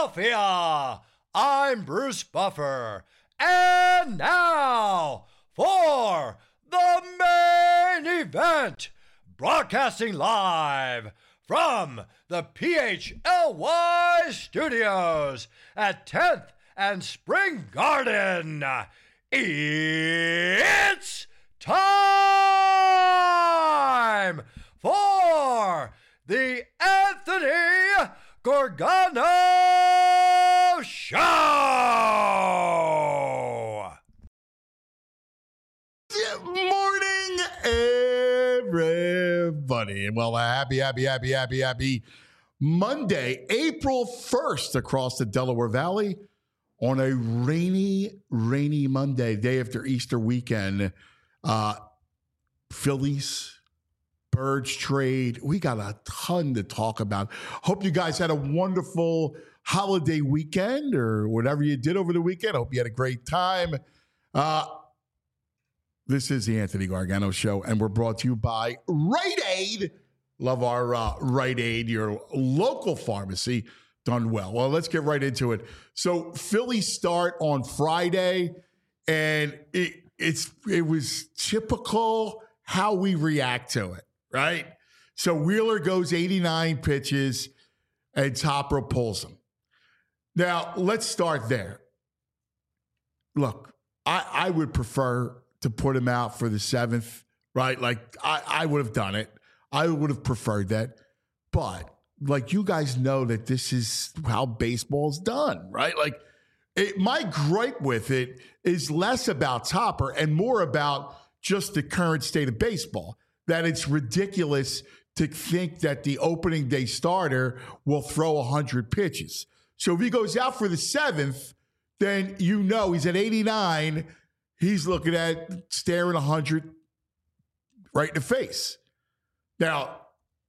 Philadelphia. I'm Bruce Buffer. And now for the main event, broadcasting live from the PHLY studios at 10th and Spring Garden. It's time for the Anthony Gorgano Show. Good morning, everybody. And well, happy Monday, April 1st across the Delaware Valley on a rainy Monday, day after Easter weekend. Phillies, Birds trade. We got a ton to talk about. Hope you guys had a wonderful holiday weekend or whatever you did over the weekend. Hope you had a great time. This is the Anthony Gargano Show, and we're brought to you by Rite Aid. Love our Rite Aid, your local pharmacy, done well. Well, let's get right into it. So Phillies start on Friday, and it was typical how we react to it, right? So Wheeler goes 89 pitches, and Topper pulls him. Now, let's start there. Look, I would prefer to put him out for the 7th, right? Like, I would have done it. I would have preferred that. But, like, you guys know that this is how baseball's done, right? Like, my gripe with it is less about Topper and more about just the current state of baseball, that it's ridiculous to think that the opening day starter will throw 100 pitches. So if he goes out for the 7th, then you know he's at 89. He's looking at staring 100 right in the face. Now,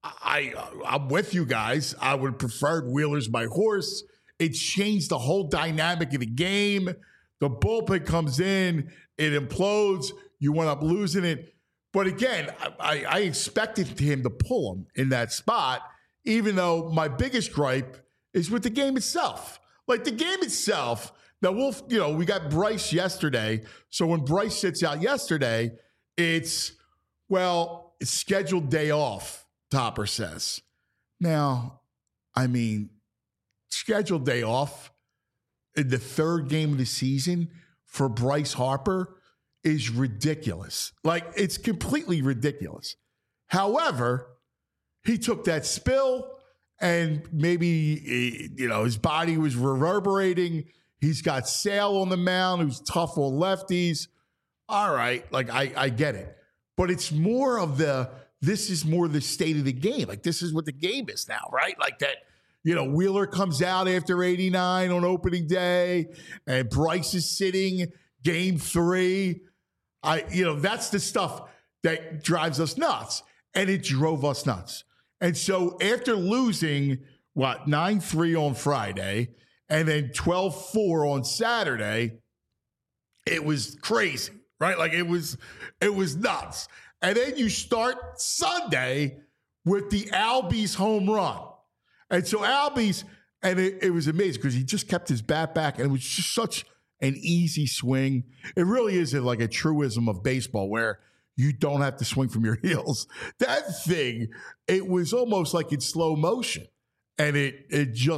I'm with you guys. I would have preferred Wheeler's my horse. It changed the whole dynamic of the game. The bullpen comes in, it implodes. You went up losing it. But again, I expected him to pull him in that spot, even though my biggest gripe is with the game itself. Like the game itself, now we got Bryce yesterday. So when Bryce sits out yesterday, it's scheduled day off, Topper says. Now, I mean, scheduled day off in the 3rd game of the season for Bryce Harper is ridiculous. Like, it's completely ridiculous. However, he took that spill and maybe, his body was reverberating. He's got Sale on the mound, who's tough on lefties. All right, like, I get it. But it's more of this is more the state of the game. Like, this is what the game is now, right? Like that, Wheeler comes out after 89 on opening day, and Bryce is sitting game 3. That's the stuff that drives us nuts, and it drove us nuts. And so after losing, 9-3 on Friday and then 12-4 on Saturday, it was crazy, right? Like it was nuts. And then you start Sunday with the Albies home run. And so Albies, and it was amazing because he just kept his bat back, and it was just such an easy swing. It really is like a truism of baseball where you don't have to swing from your heels. That thing, it was almost like in slow motion, and it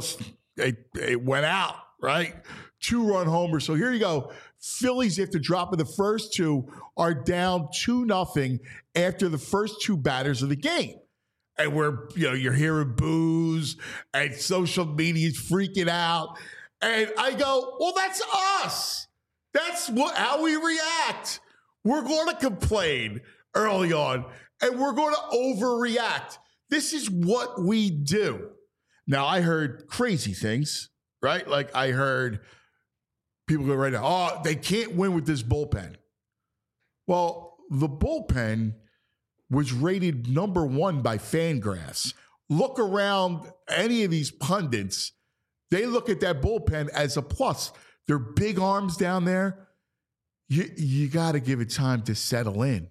went out, right? 2-run homer. So here you go. Phillies, after dropping the first 2, are down 2-0 after the first 2 batters of the game. And you're hearing boos, and social media's freaking out. And I go, well, that's us. That's how we react. We're going to complain early on, and we're going to overreact. This is what we do. Now, I heard crazy things, right? Like I heard people go right now, they can't win with this bullpen. Well, the bullpen was rated number 1 by Fangraphs. Look around any of these pundits. They look at that bullpen as a plus. They're big arms down there. You got to give it time to settle in.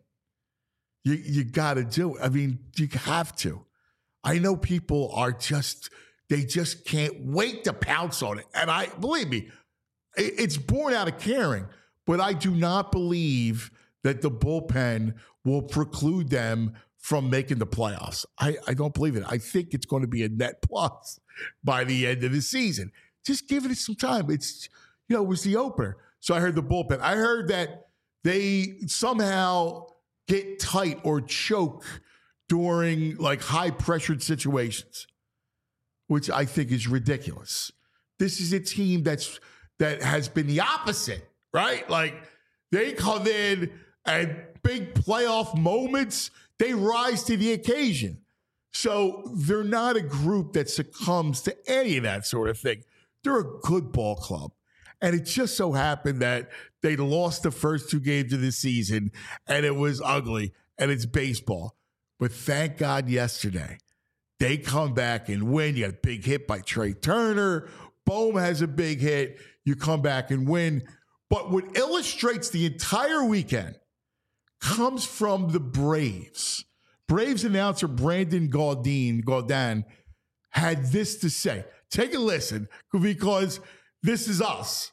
You got to do it. I mean, you have to. I know people are just they just can't wait to pounce on it. And believe me, it's born out of caring, but I do not believe that the bullpen will preclude them from making the playoffs. I don't believe it. I think it's going to be a net plus by the end of the season. Just giving it some time. It was the opener. So I heard the bullpen. I heard that they somehow get tight or choke during like high pressured situations, which I think is ridiculous. This is a team that has been the opposite, right? Like they come in at big playoff moments, they rise to the occasion. So they're not a group that succumbs to any of that sort of thing. They're a good ball club. And it just so happened that they lost the first 2 games of the season, and it was ugly, and it's baseball. But thank God yesterday, they come back and win. You got a big hit by Trey Turner. Bohm has a big hit. You come back and win. But what illustrates the entire weekend comes from the Braves. Braves announcer Brandon Gaudin had this to say. Take a listen, because this is us.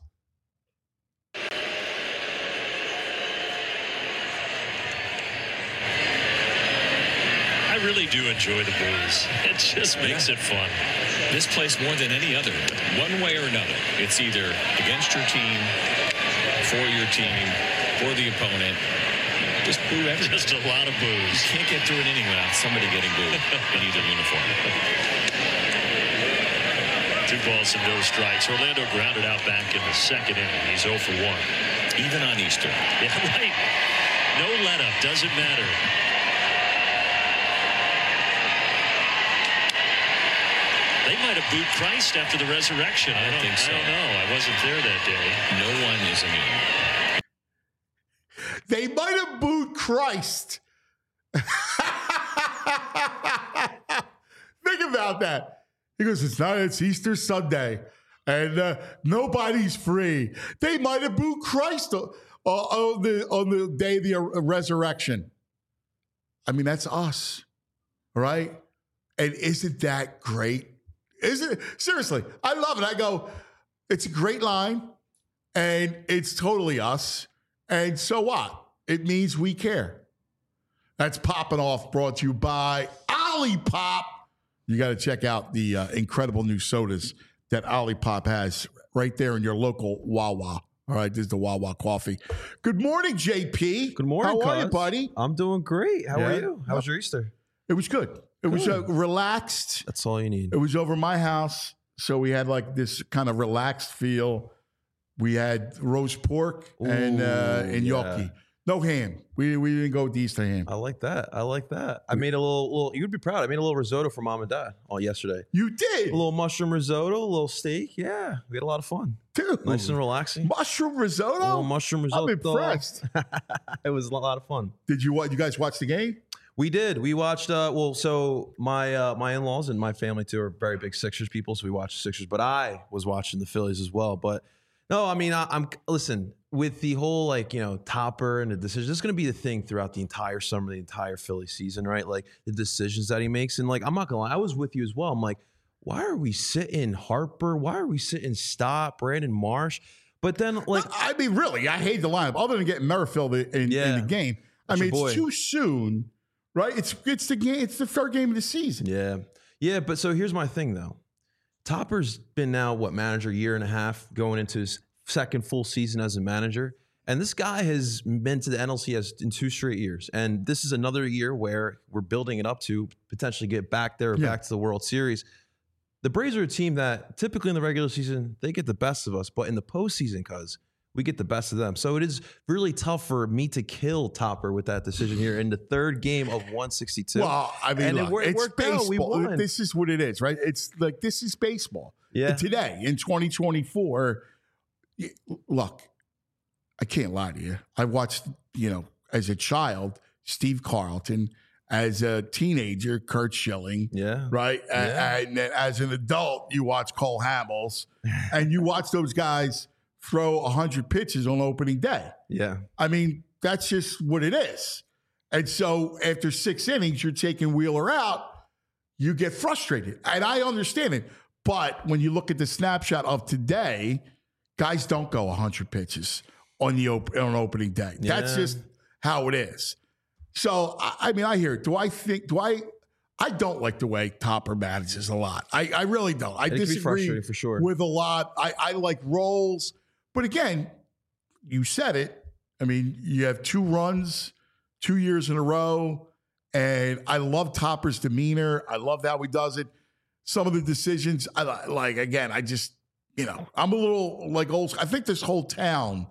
I really do enjoy the booze. It just makes it fun. This place more than any other, one way or another. It's either against your team, for your team, for the opponent. Just boo everything. Just a lot of booze. You can't get through an inning without somebody getting booed in either uniform. 2 balls and no strikes. Orlando grounded out back in the second inning. He's 0 for 1. Even on Easter. Yeah, right. No let-up. Doesn't matter. They might have booed Christ after the resurrection. I don't think so. I don't know. I wasn't there that day. No one is immune. They might have booed Christ. Think about that. He goes, it's Easter Sunday, and nobody's free. They might have booed Christ on the day of the resurrection. I mean, that's us, right? And isn't that great? Isn't it? Seriously, I love it. I go, it's a great line, and it's totally us. And so what? It means we care. That's Popping Off, brought to you by Olipop. You got to check out the incredible new sodas that Olipop has right there in your local Wawa. All right, this is the Wawa coffee. Good morning, JP. Good morning, How are you, buddy? I'm doing great. How are you? How was your Easter? It was good. It was relaxed. That's all you need. It was over my house, so we had like this kind of relaxed feel. We had roast pork and gnocchi. No ham. We didn't go with the Easter ham. I like that. I made a little. You'd be proud. I made a little risotto for mom and dad yesterday. You did? A little mushroom risotto, a little steak. Yeah, we had a lot of fun. Dude. Nice and relaxing. Mushroom risotto? A little mushroom risotto. I'm impressed. It was a lot of fun. Did you guys watch the game? We did. We watched. So my in-laws and my family too are very big Sixers people, so we watched the Sixers. But I was watching the Phillies as well. But no, I mean, I'm listen, with the whole Topper and the decision. This is going to be the thing throughout the entire summer, the entire Philly season, right? Like the decisions that he makes, and I'm not gonna lie, I was with you as well. I'm like, why are we sitting Harper? Why are we sitting Stott, Brandon Marsh? But then I mean, really, I hate the lineup. Other than getting Merrifield in the game, I mean, it's too soon. Right, it's the game. It's the third game of the season. Yeah. But so here's my thing though. Topper's been now manager, year and a half, going into his second full season as a manager, and this guy has been to the NLCS in 2 straight years. And this is another year where we're building it up to potentially get back there, back to the World Series. The Braves are a team that typically in the regular season they get the best of us, but in the postseason, we get the best of them. So it is really tough for me to kill Topper with that decision here in the third game of 162. Well, I mean, and it's worked baseball. out. We won. This is what it is, right? It's like, this is baseball. Yeah. Today, in 2024, look, I can't lie to you. I watched, as a child, Steve Carlton. As a teenager, Curt Schilling. Yeah. Right? Yeah. And as an adult, you watch Cole Hamels. And you watch those guys throw 100 pitches on opening day. Yeah. I mean, that's just what it is. And so after 6 innings, you're taking Wheeler out, you get frustrated. And I understand it. But when you look at the snapshot of today, guys don't go 100 pitches on opening day. Yeah. That's just how it is. So, I mean, I hear it. I don't like the way Topper manages a lot. I really don't. I It can be disagree frustrating for sure. with a lot. I like roles. But again, you said it. I mean, you have 2 runs, 2 years in a row. And I love Topper's demeanor. I love how he does it. Some of the decisions, I just, I'm a little like old school. I think this whole town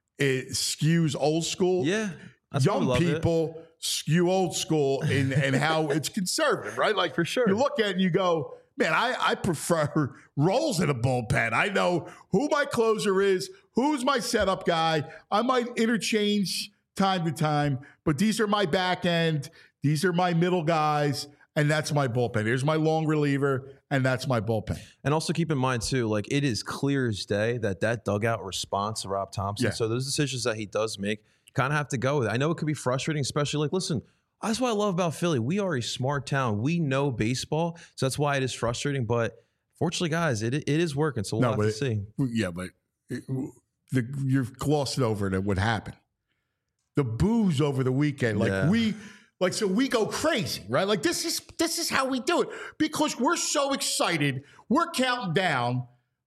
skews old school. Yeah. That's why we Young love it. people skew old school in how it's conservative, right? Like, For sure. You look at it and you go, man, I prefer roles in a bullpen. I know who my closer is, who's my setup guy. I might interchange time to time, but these are my back end. These are my middle guys, and that's my bullpen. Here's my long reliever, and that's my bullpen. And also keep in mind, too, like it is clear as day that dugout response to Rob Thompson. Yeah. So those decisions that he does make, kind of have to go with it. I know it could be frustrating, especially like, listen, that's what I love about Philly. We are a smart town. We know baseball. So that's why it is frustrating. But fortunately, guys, it is working. So we'll have to see. Yeah, but you're glossing over what happened. The boos over the weekend, so we go crazy, right? Like this is how we do it because we're so excited. We're counting down.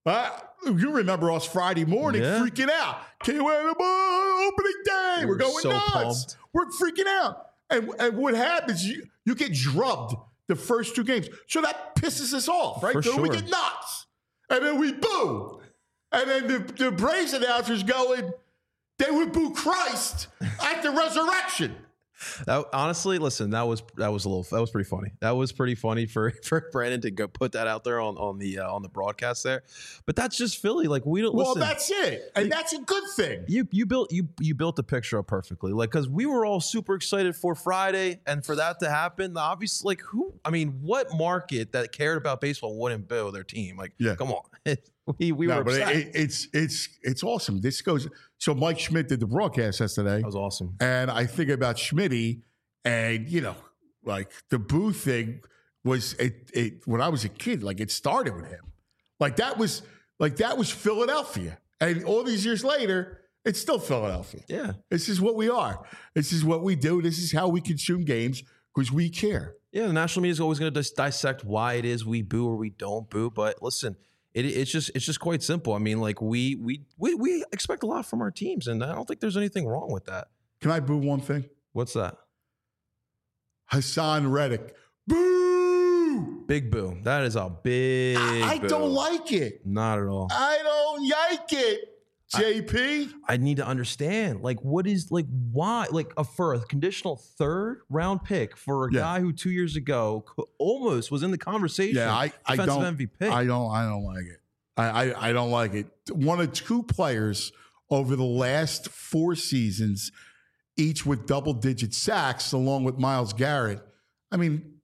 You remember us Friday morning freaking out. Can't wait opening day. We're going so nuts. pumped. We're freaking out. And what happens? You get drubbed the first 2 games, so that pisses us off, right? For So we sure. get nuts, and then we boo, and then the Braves announcers going, they would boo Christ at the resurrection. Honestly, listen, that was pretty funny. That was pretty funny for Brandon to go put that out there on the broadcast there. But that's just Philly. Like we don't. Well, listen, that's it, and that's a good thing. You built the picture up perfectly. Like because we were all super excited for Friday, and for that to happen, obviously, what market that cared about baseball wouldn't boo their team? Like, come on. We were upset. It's awesome. This goes. So Mike Schmidt did the broadcast yesterday. That was awesome. And I think about Schmitty, and like the boo thing was it when I was a kid. Like it started with him. Like that was Philadelphia, and all these years later, it's still Philadelphia. Yeah, this is what we are. This is what we do. This is how we consume games because we care. Yeah, the national media is always going to dissect why it is we boo or we don't boo. But listen. It's just quite simple. I mean, like we expect a lot from our teams, and I don't think there's anything wrong with that. Can I boo one thing? What's that? Hassan Reddick. Boo! Big boo. That is a big I boo. don't like it. Not at all. I don't like it. JP? I need to understand. Like, what is why? Like for a conditional 3rd round pick for a guy who 2 years ago almost was in the conversation. Yeah, I defensive don't. MVP. I don't like it. I don't like it. One of 2 players over the last 4 seasons, each with double-digit sacks, along with Myles Garrett. I mean,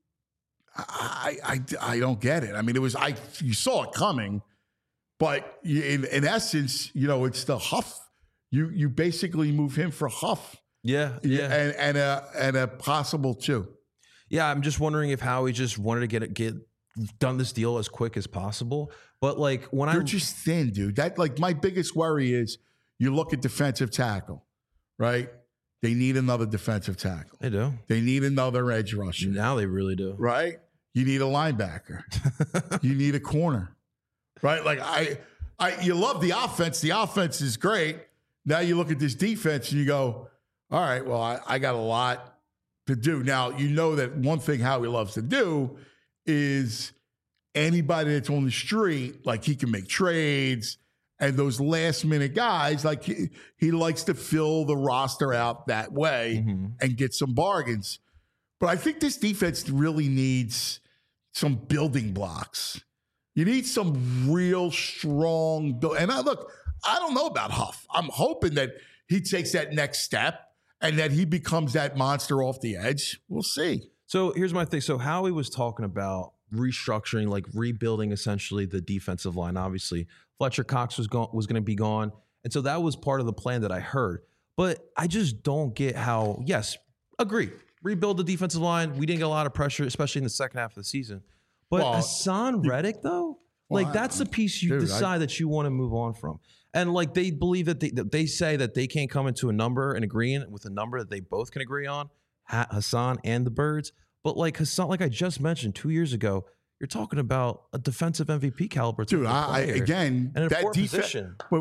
I don't get it. I mean, you saw it coming. But in essence, it's the Huff. You basically move him for Huff. Yeah. And a possible 2. Yeah, I'm just wondering if Howie just wanted to get done this deal as quick as possible. But like when they're just thin, dude. That my biggest worry is you look at defensive tackle, right? They need another defensive tackle. They do. They need another edge rusher. Now they really do. Right? You need a linebacker. You need a corner. Right? Like you love the offense. The offense is great. Now you look at this defense and you go, all right, well, I got a lot to do. Now, you know that one thing Howie loves to do is anybody that's on the street, like he can make trades, and those last minute guys, like he likes to fill the roster out that way and get some bargains. But I think this defense really needs some building blocks. You need some real strong and I don't know about Huff. I'm hoping that he takes that next step and that he becomes that monster off the edge. We'll see. So here's my thing. So Howie was talking about restructuring, like rebuilding essentially the defensive line. Obviously, Fletcher Cox was going to be gone. And so that was part of the plan that I heard. But I just don't get how, yes, agree. Rebuild the defensive line. We didn't get a lot of pressure, especially in the second half of the season. But Hassan Reddick, though, Like that's the piece you decide that you want to move on from. And like they believe that they say that they can't come into a number and agreeing with a number that they both can agree on, Hassan and the Birds. But like Hassan, like I just mentioned 2 years ago, you're talking about a defensive MVP caliber. Dude, again, and that defense.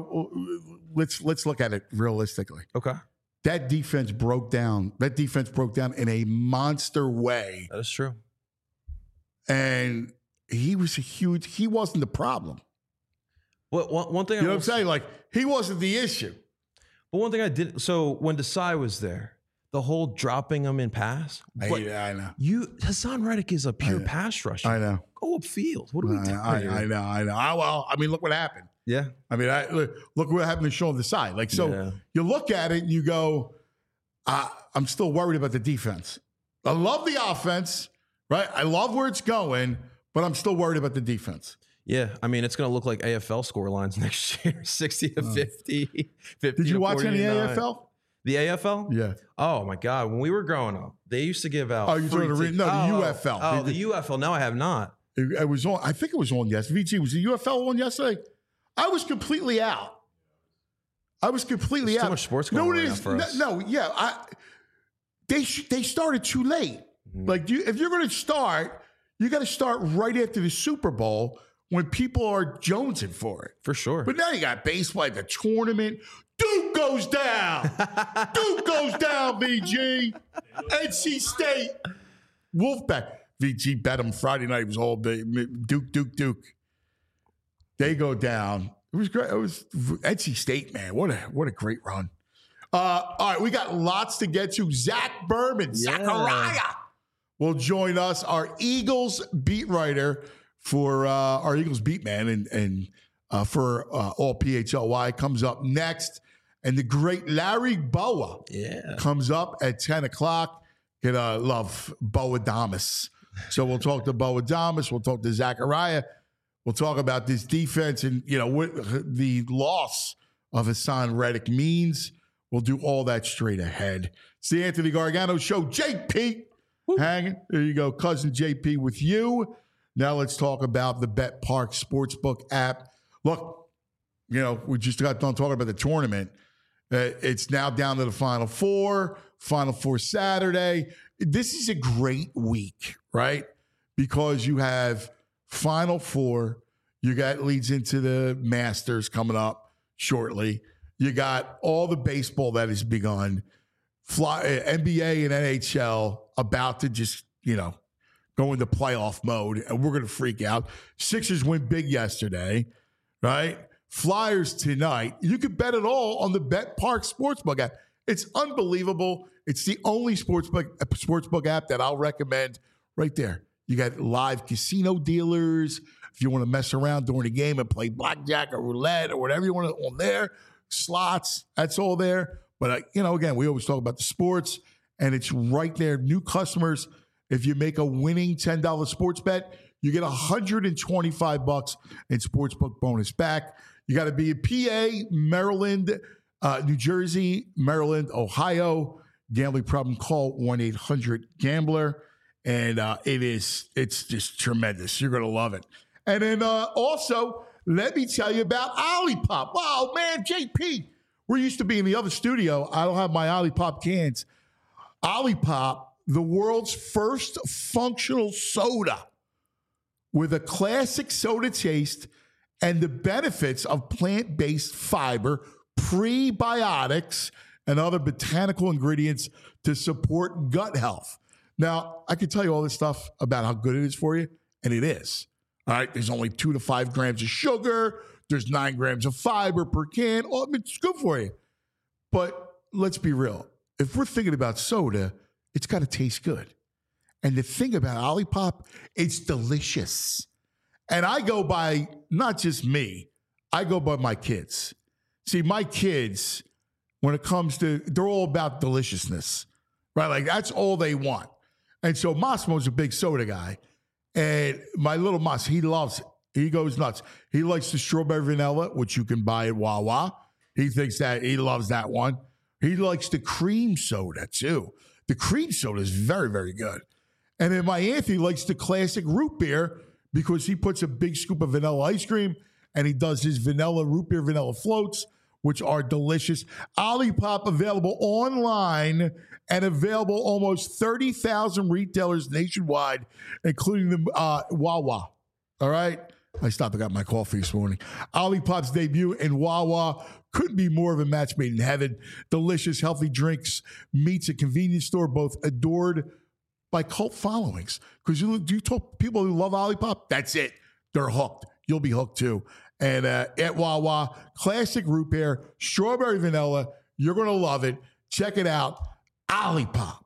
Let's look at it realistically. Okay. That defense broke down. That defense broke down in a monster way. That is true. And he wasn't the problem. Well, one thing you know what I'm saying? Like, he wasn't the issue. But one thing I did, so when Desai was there, the whole dropping him in pass. I know. Hassan Reddick is a pure pass rusher. I know. Go upfield. What are we doing here? I know. Well, I mean, look what happened. Yeah. I mean, look what happened to Sean Desai. Like, so you look at it and you go, I'm still worried about the defense. I love the offense, right? I love where it's going, but I'm still worried about the defense. Yeah, I mean, it's going to look like AFL score lines next year, 60 to 50, 50 Did you watch any 49. AFL? The AFL? Yeah. Oh, my God. When we were growing up, they used to give out. Oh, you're doing the UFL. Oh, the UFL. No, I have not. It was on. I think it was on yesterday. VG, was the UFL on yesterday? I was completely out. There's too much sports going on right now for us. No, yeah. They started too late. Like, if you're going to start, you got to start right after the Super Bowl when people are jonesing for it. For sure. But now you got baseball, the tournament. Duke goes down. Duke goes down, VG. NC State. Wolfpack. VG bet them Friday night. It was all day. Duke. They go down. It was great. It was NC State, man. What a great run. All right, we got lots to get to. Zach Berman, Zachariah, will join us. Our Eagles beat writer for our Eagles beat man and for all PHLY comes up next. And the great Larry Boa comes up at 10 o'clock. Gonna love Boa Damas. So we'll talk to Boa Damas. We'll talk to Zachariah. We'll talk about this defense and, what the loss of Hassan Reddick means. We'll do all that straight ahead. It's the Anthony Gargano Show. JP hanging. There you go. Cousin JP with you. Now let's talk about the Bet Park Sportsbook app. Look, we just got done talking about the tournament. It's now down to the Final Four Saturday. This is a great week, right? Because you have Final Four. You got leads into the Masters coming up shortly. You got all the baseball that has begun. NBA and NHL about to just, go into playoff mode, and we're going to freak out. Sixers win big yesterday, right? Flyers tonight. You can bet it all on the Bet Park Sportsbook app. It's unbelievable. It's the only sportsbook app that I'll recommend right there. You got live casino dealers. If you want to mess around during the game and play blackjack or roulette or whatever you want to on there, slots, that's all there. But, again, we always talk about the sports, and it's right there. New customers, if you make a winning $10 sports bet, you get $125 in sportsbook bonus back. You got to be in PA, Maryland, New Jersey, Maryland, Ohio. Gambling problem, call 1-800-GAMBLER. And it's just tremendous. You're going to love it. And then also, let me tell you about Olipop. Oh, man, JP. We're used to being in the other studio. I don't have my Olipop cans. Olipop, the world's first functional soda with a classic soda taste and the benefits of plant-based fiber, prebiotics, and other botanical ingredients to support gut health. Now, I can tell you all this stuff about how good it is for you, and it is. All right, there's only 2 to 5 grams of sugar. There's 9 grams of fiber per can. Oh, it's good for you. But let's be real. If we're thinking about soda, it's got to taste good. And the thing about Olipop, it's delicious. And I go by, not just me, I go by my kids. See, my kids, when it comes to, they're all about deliciousness, right? Like, that's all they want. And so Massimo's a big soda guy. And my little Mas, he loves it. He goes nuts. He likes the strawberry vanilla, which you can buy at Wawa. He thinks that, he loves that one. He likes the cream soda, too. The cream soda is very, very good. And then my Anthony likes the classic root beer because he puts a big scoop of vanilla ice cream and he does his vanilla root beer vanilla floats, which are delicious. Olipop available online and available almost 30,000 retailers nationwide, including the Wawa. All right? I stopped and got my coffee this morning. Olipop's debut in Wawa couldn't be more of a match made in heaven. Delicious, healthy drinks, meets a convenience store, both adored by cult followings. Because you talk people who love Olipop, that's it. They're hooked. You'll be hooked too. And at Wawa, classic root beer, strawberry vanilla. You're going to love it. Check it out. Olipop.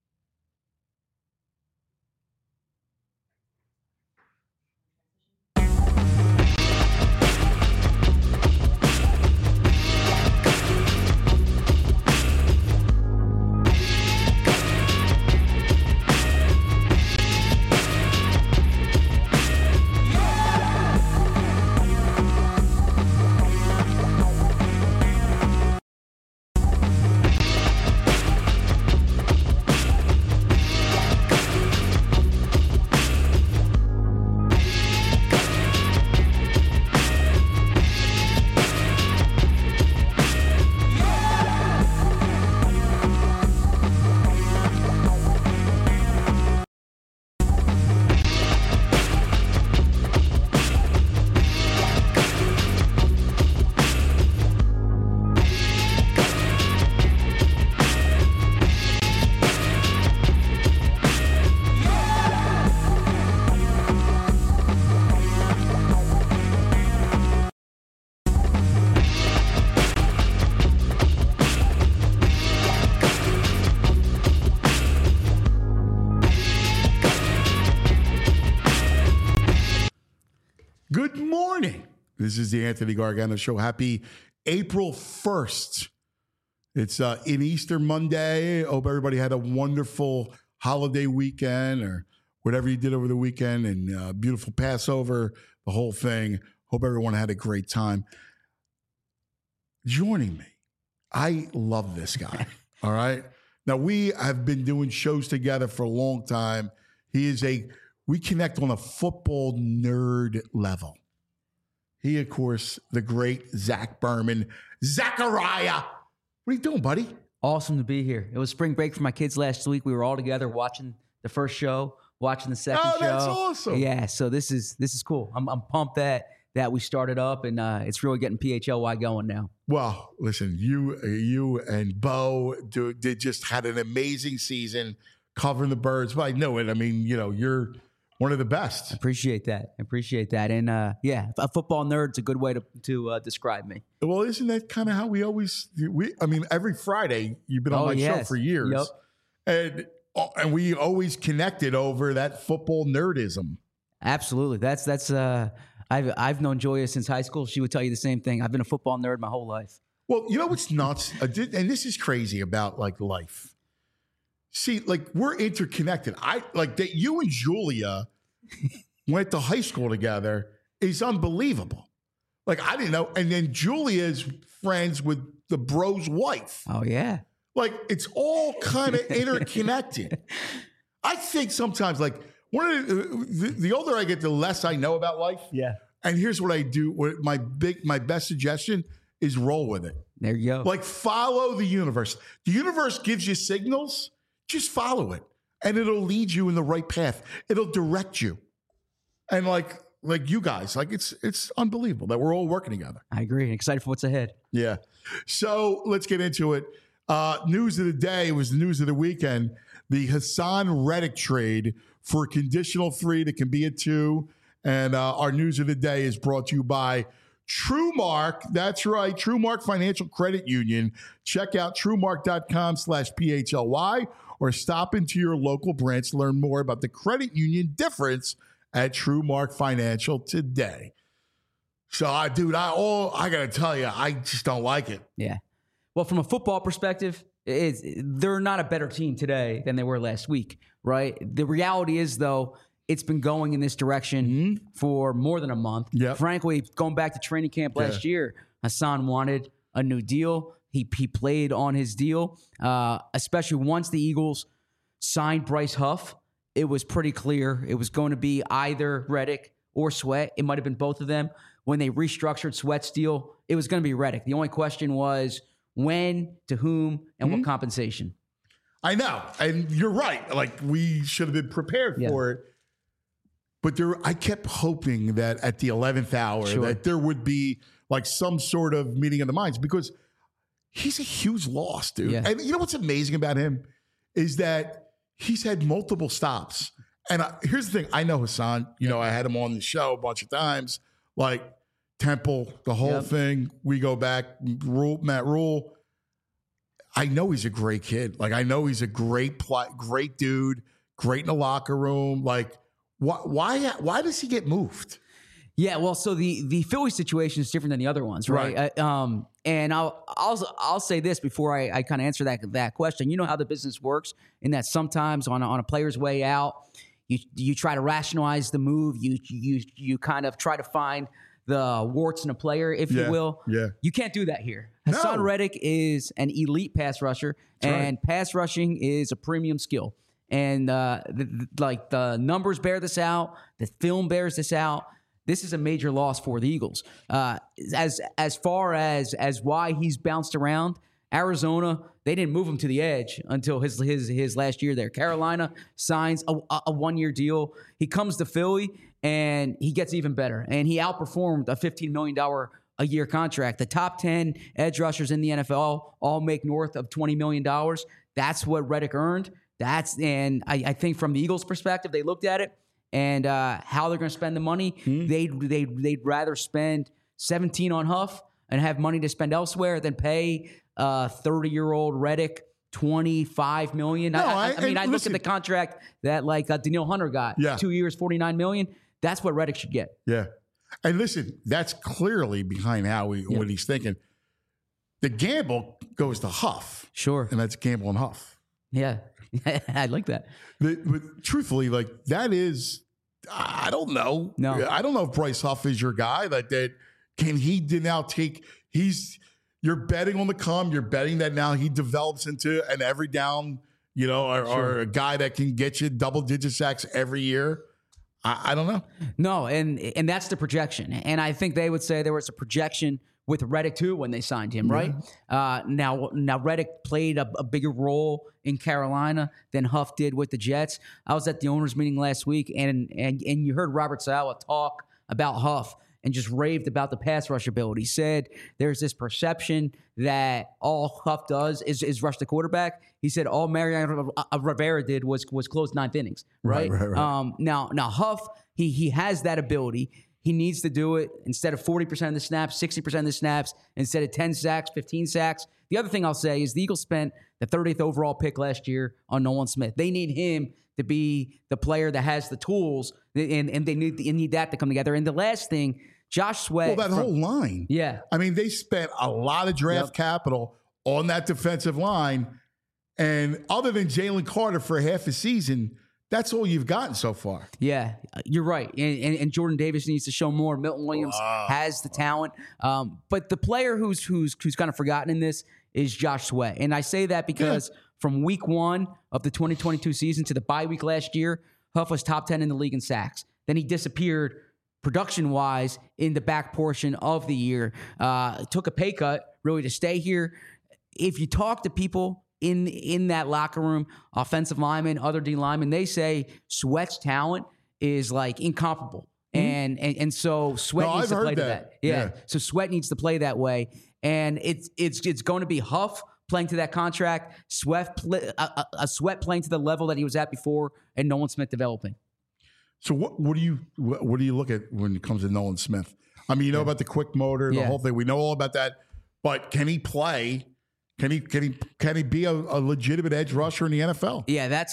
Good morning. This is the Anthony Gargano Show. Happy April 1st. It's in Easter Monday. Hope everybody had a wonderful holiday weekend or whatever you did over the weekend, and beautiful Passover, the whole thing. Hope everyone had a great time. Joining me, I love this guy. All right. Now, we have been doing shows together for a long time. We connect on a football nerd level. He, of course, the great Zach Berman. Zachariah, what are you doing, buddy? Awesome to be here. It was spring break for my kids last week. We were all together watching the first show, watching the second show. Oh, that's awesome. Yeah, so this is cool. I'm pumped that we started up, and it's really getting PHLY going now. Well, listen, you and Bo just had an amazing season covering the Birds. But I know it. I mean, you're one of the best. Appreciate that. And a football nerd's a good way to describe me. Well, isn't that kind of how we always? Every Friday you've been on my show for years, and we always connected over that football nerdism. Absolutely. That's I've known Joya since high school. She would tell you the same thing. I've been a football nerd my whole life. Well, you know what's nuts, and this is crazy about life. See, we're interconnected. That you and Julia went to high school together is unbelievable. I didn't know. And then Julia's friends with the bro's wife. Oh, yeah. It's all kind of interconnected. I think sometimes, the older I get, the less I know about life. Yeah. And here's what I do. My best suggestion is roll with it. There you go. Follow the universe. The universe gives you signals. Just follow it, and it'll lead you in the right path. It'll direct you. And like you guys, it's unbelievable that we're all working together. I agree. Excited for what's ahead. Yeah. So let's get into it. News of the day was the news of the weekend. The Hassan Reddick trade for a conditional 3 that can be a 2. And our news of the day is brought to you by TrueMark. That's right. TrueMark Financial Credit Union. Check out TrueMark.com/PHLY or stop into your local branch to learn more about the credit union difference at TrueMark Financial today. So, I got to tell you, I just don't like it. Yeah. Well, from a football perspective, they're not a better team today than they were last week, right? The reality is, though, it's been going in this direction for more than a month. Yep. Frankly, going back to training camp last year, Hassan wanted a new deal. He played on his deal, especially once the Eagles signed Bryce Huff it was pretty clear it was going to be either Reddick or Sweat. It might have been both of them. When they restructured Sweat's deal, it was going to be Reddick. The only question was when, to whom, and what compensation. I know. And you're right. Like, we should have been prepared for it. But I kept hoping that at the 11th hour that there would be like some sort of meeting of the minds, because he's a huge loss, dude. Yeah. And you know what's amazing about him is that he's had multiple stops. And here's the thing. I know Hassan. You know, I had him on the show a bunch of times. Like Temple, the whole thing. We go back. Matt Rule. I know he's a great kid. Like, I know he's a great dude. Great in the locker room. Like, why does he get moved? Yeah, well, so the Philly situation is different than the other ones, right? And I'll say this before I kind of answer that question. You know how the business works, in that sometimes on a player's way out, you try to rationalize the move. You kind of try to find the warts in a player, if you will. Yeah. You can't do that here. Hassan Reddick is an elite pass rusher, and pass rushing is a premium skill. And the numbers bear this out. The film bears this out. This is a major loss for the Eagles. As far as why he's bounced around, Arizona, they didn't move him to the edge until his last year there. Carolina signs a 1-year deal. He comes to Philly, and he gets even better. And he outperformed a $15 million a year contract. The top 10 edge rushers in the NFL all make north of $20 million. That's what Reddick earned. And I think from the Eagles' perspective, they looked at it and how they're going to spend the money. They'd rather spend 17 on Huff and have money to spend elsewhere than pay 30-year-old Reddick $25 million. I mean, I look at the contract that Danielle Hunter got. 2 years, $49 million. That's what Reddick should get. Yeah. And listen, that's clearly behind what he's thinking. The gamble goes to Huff. Sure. And that's Gamble and Huff. Yeah. I like that. But truthfully, that is, I don't know. No. I don't know if Bryce Huff is your guy. Can he now take, you're betting on the come. You're betting that now he develops into an every down, or a guy that can get you double-digit sacks every year. I don't know. No, and that's the projection. And I think they would say there was a projection with Reddick too when they signed him, right? Now Reddick played a bigger role in Carolina than Huff did with the Jets. I was at the owners' meeting last week, and you heard Robert Saleh talk about Huff and just raved about the pass rush ability. He said there's this perception that all Huff does is rush the quarterback. He said all Mariano Rivera did was close ninth innings, right? Right. Now Huff, he has that ability. He needs to do it instead of 40% of the snaps, 60% of the snaps, instead of 10 sacks, 15 sacks. The other thing I'll say is the Eagles spent the 30th overall pick last year on Nolan Smith. They need him to be the player that has the tools, and they need that to come together. And the last thing, Josh Sweat. Well, that whole line. Yeah. I mean, they spent a lot of draft capital on that defensive line. And other than Jalen Carter for half a season, that's all you've gotten so far. Yeah, you're right. And Jordan Davis needs to show more. Milton Williams has the talent. But the player who's kind of forgotten in this is Josh Sweat. And I say that because from week 1 of the 2022 season to the bye week last year, Huff was top 10 in the league in sacks. Then he disappeared production-wise in the back portion of the year. Took a pay cut, really, to stay here. If you talk to people in that locker room, offensive linemen, other D linemen, they say Sweat's talent is incomparable. And so Sweat needs to play to that. Yeah. So Sweat needs to play that way. And it's going to be Huff playing to that contract, Sweat playing to the level that he was at before, and Nolan Smith developing. So what do you look at when it comes to Nolan Smith? I mean, you know about the quick motor, the whole thing. We know all about that. But can he play? Can he be a legitimate edge rusher in the NFL? Yeah,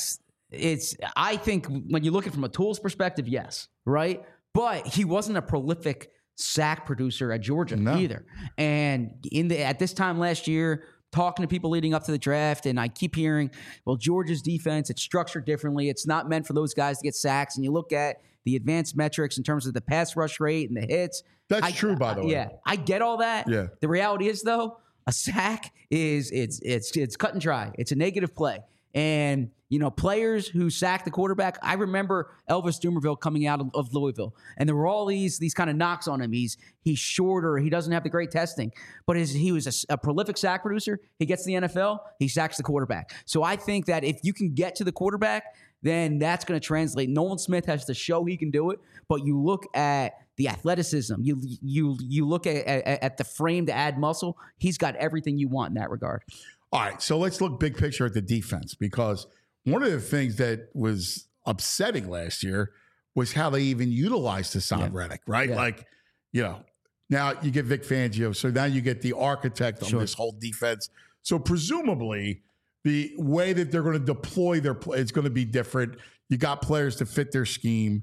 I think when you look at it from a tools perspective, yes, right? But he wasn't a prolific sack producer at Georgia either. And at this time last year, talking to people leading up to the draft, and I keep hearing, well, Georgia's defense, it's structured differently. It's not meant for those guys to get sacks. And you look at the advanced metrics in terms of the pass rush rate and the hits. That's true, by the way. Yeah, I get all that. Yeah. The reality is, though, a sack it's cut and dry. It's a negative play. And, players who sack the quarterback, I remember Elvis Dumervil coming out of Louisville, and there were all these kind of knocks on him. He's shorter. He doesn't have the great testing, but he was a prolific sack producer. He gets to the NFL, he sacks the quarterback. So I think that if you can get to the quarterback, then that's going to translate. Nolan Smith has to show he can do it, but you look at the athleticism, you look at the frame to add muscle. He's got everything you want in that regard. All right, so let's look big picture at the defense, because one of the things that was upsetting last year was how they even utilized Hassan Reddick, right? Yeah. Like, now you get Vic Fangio, so now you get the architect of this whole defense. So presumably the way that they're going to deploy their play is going to be different. You got players to fit their scheme.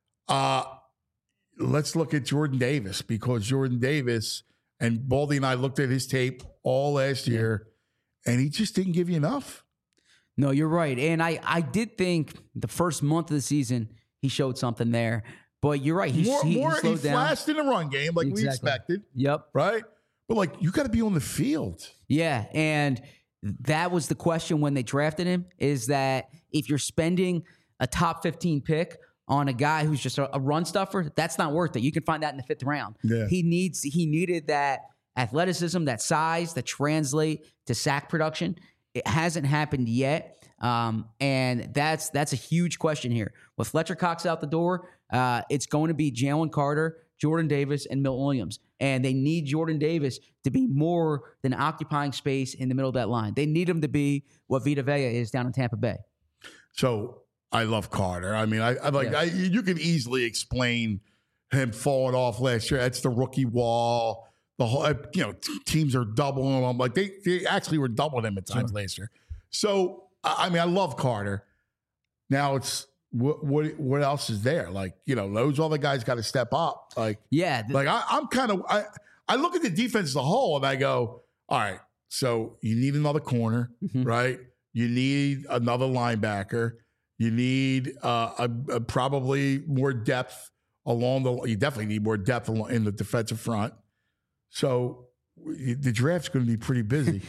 Let's look at Jordan Davis, because Jordan Davis, and Baldy and I looked at his tape all last year, and he just didn't give you enough. No, you're right. And I did think the first month of the season he showed something there. But you're right. He slowed down. Flashed in the run game like we expected. Yep. Right? But you got to be on the field. Yeah. And that was the question when they drafted him, is that if you're spending a top 15 pick on a guy who's just a run stuffer, that's not worth it. You can find that in the 5th round. Yeah. He needed that athleticism, that size, that translate to sack production. It hasn't happened yet, and that's a huge question here. With Fletcher Cox out the door, it's going to be Jalen Carter, Jordan Davis, and Milton Williams. And they need Jordan Davis to be more than occupying space in the middle of that line. They need him to be what Vita Vea is down in Tampa Bay. So I love Carter. I mean, you can easily explain him falling off last year. That's the rookie wall. The whole, teams are doubling him. Like they actually were doubling him at times last year. So I mean, I love Carter. Now it's what else is there? Like, those other guys got to step up. Like, yeah. I look at the defense as a whole and I go, all right, so you need another corner, right? You need another linebacker. You need probably more depth you definitely need more depth in the defensive front. So the draft's going to be pretty busy.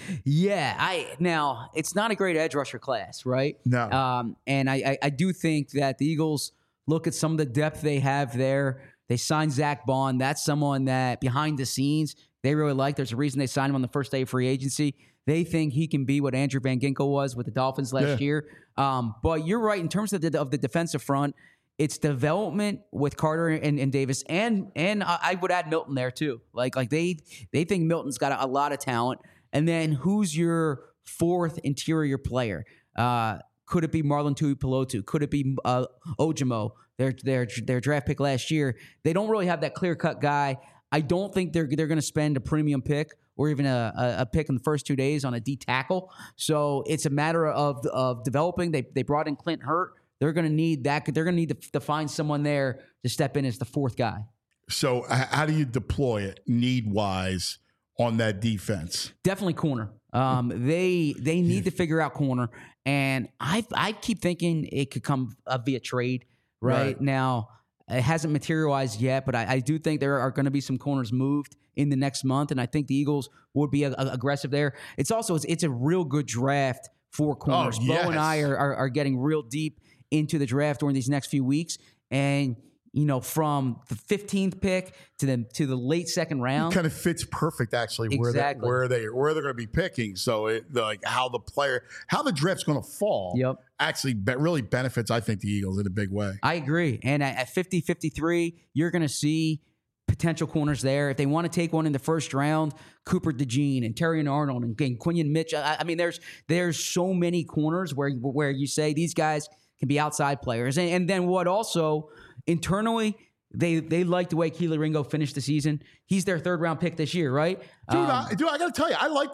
Now it's not a great edge rusher class, right? No. And I do think that the Eagles look at some of the depth they have there. They signed Zach Bond. That's someone that behind the scenes they really like. There's a reason they signed him on the first day of free agency. They think he can be what Andrew Van Ginkel was with the Dolphins last year. But you're right in terms of the defensive front. It's development with Carter and Davis, and I would add Milton there too. Like they think Milton's got a lot of talent. And then who's your 4th interior player? Could it be Marlon Tuipulotu? Could it be Ojimo? Their draft pick last year. They don't really have that clear cut guy. I don't think they're going to spend a premium pick or even a pick in the first 2 days on a D tackle. So it's a matter of developing. They brought in Clint Hurt. They're going to need that. They're going to need to find someone there to step in as the 4th guy. So how do you deploy it need-wise on that defense? Definitely corner. They need to figure out corner, and I keep thinking it could come via trade. Right now, it hasn't materialized yet, but I do think there are going to be some corners moved in the next month, and I think the Eagles would be aggressive there. It's a real good draft for corners. Bo and I are getting real deep into the draft during these next few weeks, and from the 15th pick to the late 2nd round, it kind of fits perfect actually where they're going to be picking. So how the draft's going to fall actually really benefits, I think, the Eagles in a big way. I agree. And at 50-53, you're going to see potential corners there. If they want to take one in the first round, Cooper DeJean and Terrion Arnold and Quinion Mitchell. I mean, there's so many corners where you say these guys can be outside players. And then what also internally, they like the way Kelee Ringo finished the season. He's their 3rd round pick this year, right? Dude, I got to tell you,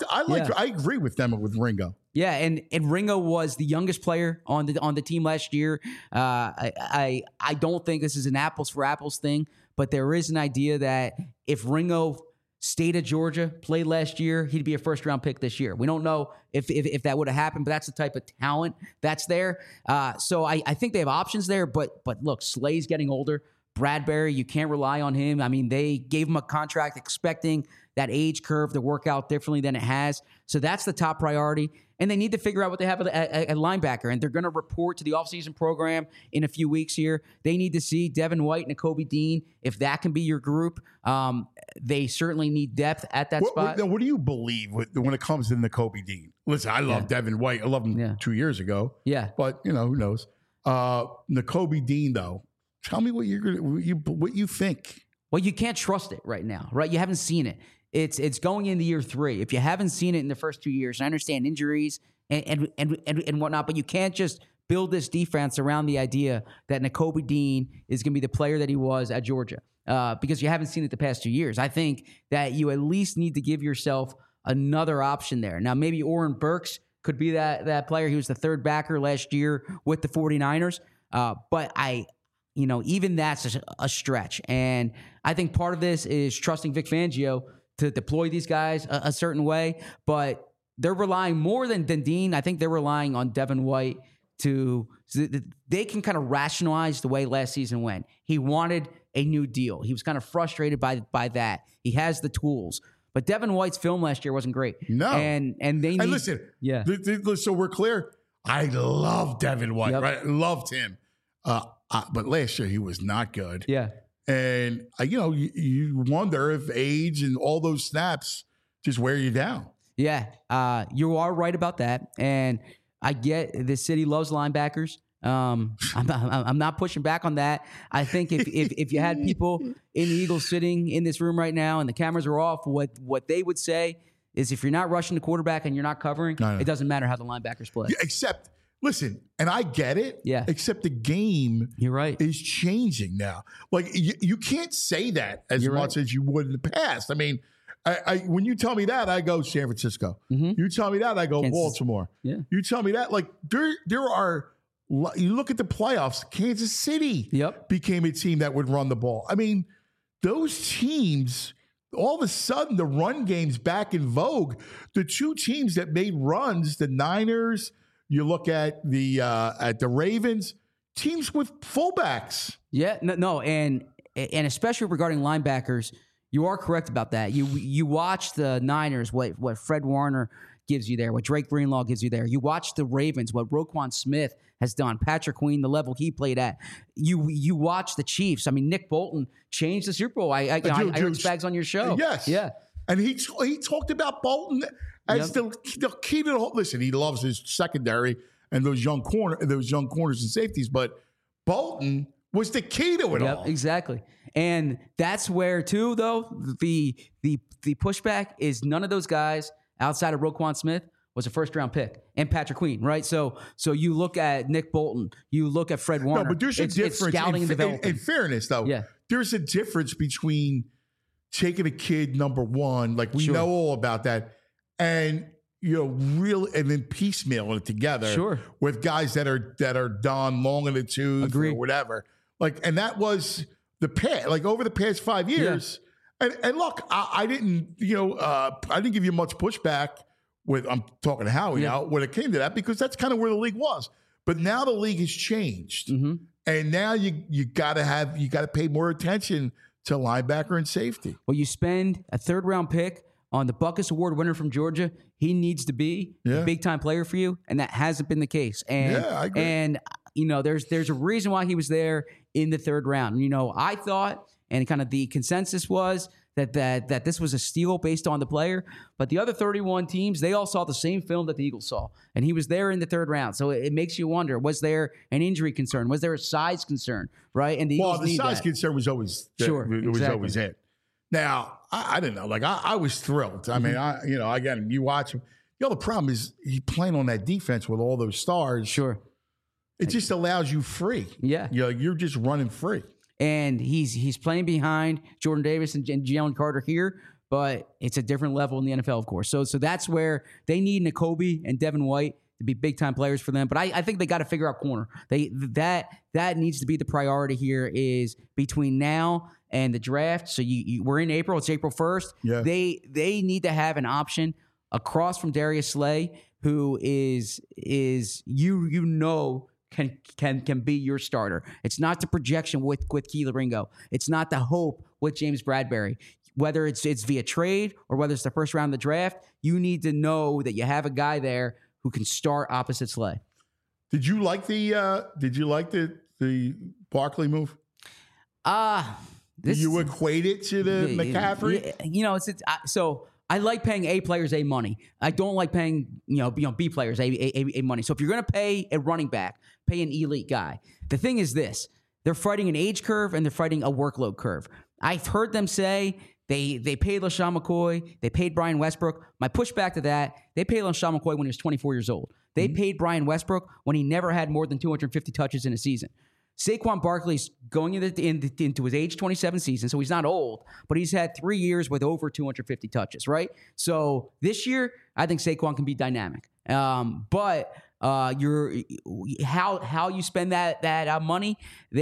I agree with them with Ringo. Yeah, and Ringo was the youngest player on the team last year. I don't think this is an apples for apples thing, but there is an idea that if Ringo stayed at Georgia, played last year, he'd be a 1st round pick this year. We don't know if that would have happened, but that's the type of talent that's there. So I think they have options there. But look, Slay's getting older. Bradbury, you can't rely on him. I mean, they gave him a contract expecting that age curve to work out differently than it has. So that's the top priority. And they need to figure out what they have at linebacker. And they're going to report to the offseason program in a few weeks here. They need to see Devin White and Nakobe Dean, if that can be your group. They certainly need depth at that spot. What do you believe when it comes to Nakobe Dean? Listen, I love Devin White. I loved him 2 years ago. Yeah. But, who knows? Nakobe Dean, though, tell me what you think. Well, you can't trust it right now, right? You haven't seen it. It's going into year 3. If you haven't seen it in the first 2 years, I understand injuries and whatnot, but you can't just build this defense around the idea that Nakobe Dean is going to be the player that he was at Georgia because you haven't seen it the past 2 years. I think that you at least need to give yourself another option there. Now, maybe Oren Burks could be that player. He was the third backer last year with the 49ers, but even that's a stretch. And I think part of this is trusting Vic Fangio to deploy these guys a certain way, but they're relying more than Dean. I think they're relying on Devin White so they can kind of rationalize the way last season went. He wanted a new deal. He was kind of frustrated by that. He has the tools. But Devin White's film last year wasn't great. No. And they need... And listen, so we're clear. I love Devin White, right? Loved him. But last year he was not good. Yeah. And, you wonder if age and all those snaps just wear you down. Yeah, you are right about that. And I get the city loves linebackers. I'm not pushing back on that. I think if you had people in the Eagles sitting in this room right now and the cameras are off, what they would say is if you're not rushing the quarterback and you're not covering, it doesn't matter how the linebackers play. Yeah, except... Listen, and I get it. Yeah. Except the game You're right. is changing now. Like, you can't say that as much as you would in the past. I mean, when you tell me that, I go San Francisco. Mm-hmm. You tell me that, I go Kansas. Baltimore. Yeah. You tell me that, like, there are, you look at the playoffs, Kansas City became a team that would run the ball. I mean, those teams, all of a sudden, the run game's back in vogue. The two teams that made runs, the Niners... You look at the Ravens, teams with fullbacks. Yeah, no, and especially regarding linebackers, you are correct about that. You watch the Niners, what Fred Warner gives you there, what Drake Greenlaw gives you there. You watch the Ravens, what Roquan Smith has done, Patrick Queen, the level he played at. You watch the Chiefs. I mean, Nick Bolton changed the Super Bowl. I heard Spags on your show. Yes, yeah, and he talked about Bolton. As the key to the whole, listen, he loves his secondary and those young corners and safeties, but Bolton was the key to it all. Exactly. And that's where too, though, the pushback is none of those guys outside of Roquan Smith was a first-round pick, and Patrick Queen, right? So you look at Nick Bolton, you look at Fred Warner. No, but there's a difference. It's scouting and development. In fairness, though, there's a difference between taking a kid number one, like we know all about that, and and then piecemealing it together with guys that are done long in the tooth or whatever. Like, and that was the past. Like over the past 5 years. Yeah. And look, I didn't give you much pushback with. I'm talking to Howie now when it came to that because that's kind of where the league was. But now the league has changed, and now you got to pay more attention to linebacker and safety. Well, you spend a third-round pick on the Buckus Award winner from Georgia. He needs to be a big-time player for you, and that hasn't been the case. And, I agree. And, there's a reason why he was there in the third round. I thought, and kind of the consensus was that this was a steal based on the player, but the other 31 teams, they all saw the same film that the Eagles saw, and he was there in the third round. So it makes you wonder, was there an injury concern? Was there a size concern, right? And the Eagles size concern was always was always it. Now, I didn't know. Like, I was thrilled. I mean, again, you watch him. The problem is he's playing on that defense with all those stars. Sure. It just allows you free. Yeah. You're just running free. And he's playing behind Jordan Davis and Jalen Carter here, but it's a different level in the NFL, of course. So that's where they need Nakobe and Devin White to be big-time players for them. But I think they got to figure out corner. That needs to be the priority here is between now and the draft. So we're in April. It's April 1st. Yeah. They need to have an option across from Darius Slay, who is can be your starter. It's not the projection with Kelee Ringo. It's not the hope with James Bradbury. Whether it's via trade or whether it's the first round of the draft, you need to know that you have a guy there who can start opposite Slay. Did you like the Barkley move? You equate it to the McCaffrey? So I like paying A players A money. I don't like paying B players A money. So if you're going to pay a running back, pay an elite guy. The thing is this: they're fighting an age curve and they're fighting a workload curve. I've heard them say they paid LaShawn McCoy, they paid Brian Westbrook. My pushback to that: they paid LaShawn McCoy when he was 24 years old. They paid Brian Westbrook when he never had more than 250 touches in a season. Saquon Barkley's going into his age 27 season, so he's not old, but he's had 3 years with over 250 touches, right? So this year, I think Saquon can be dynamic. But how you spend that money,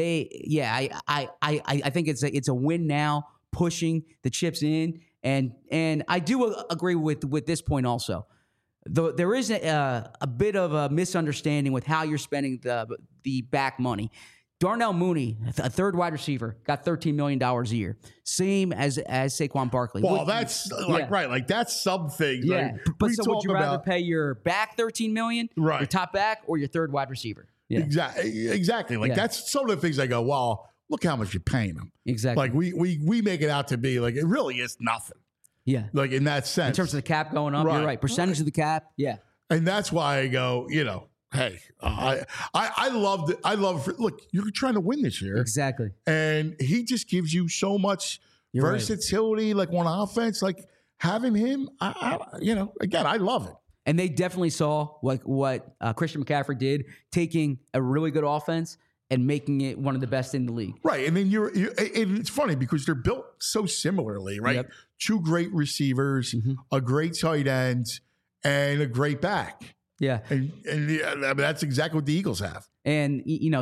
I think it's a win now, pushing the chips in, and I do agree with this point also. Though there is a bit of a misunderstanding with how you're spending the back money. Darnell Mooney, a third wide receiver, got $13 million a year, same as Saquon Barkley. Well, that's right. Like that's something. Yeah, like, but so would you rather pay your back $13 million, right, your top back, or your third wide receiver? Yeah. Exactly. Like that's some of the things I go, well, look how much you're paying them. Exactly. Like we make it out to be like it really is nothing. Yeah. Like in that sense. In terms of the cap going up, you're right. Percentage of the cap. Yeah. And that's why I go, hey, I loved it. Look, you're trying to win this year. Exactly. And he just gives you so much versatility, like on offense, like having him, again, I love it. And they definitely saw what Christian McCaffrey did, taking a really good offense and making it one of the best in the league. Right. And then and it's funny because they're built so similarly, right? Yep. Two great receivers, a great tight end, and a great back. Yeah. And that's exactly what the Eagles have. And,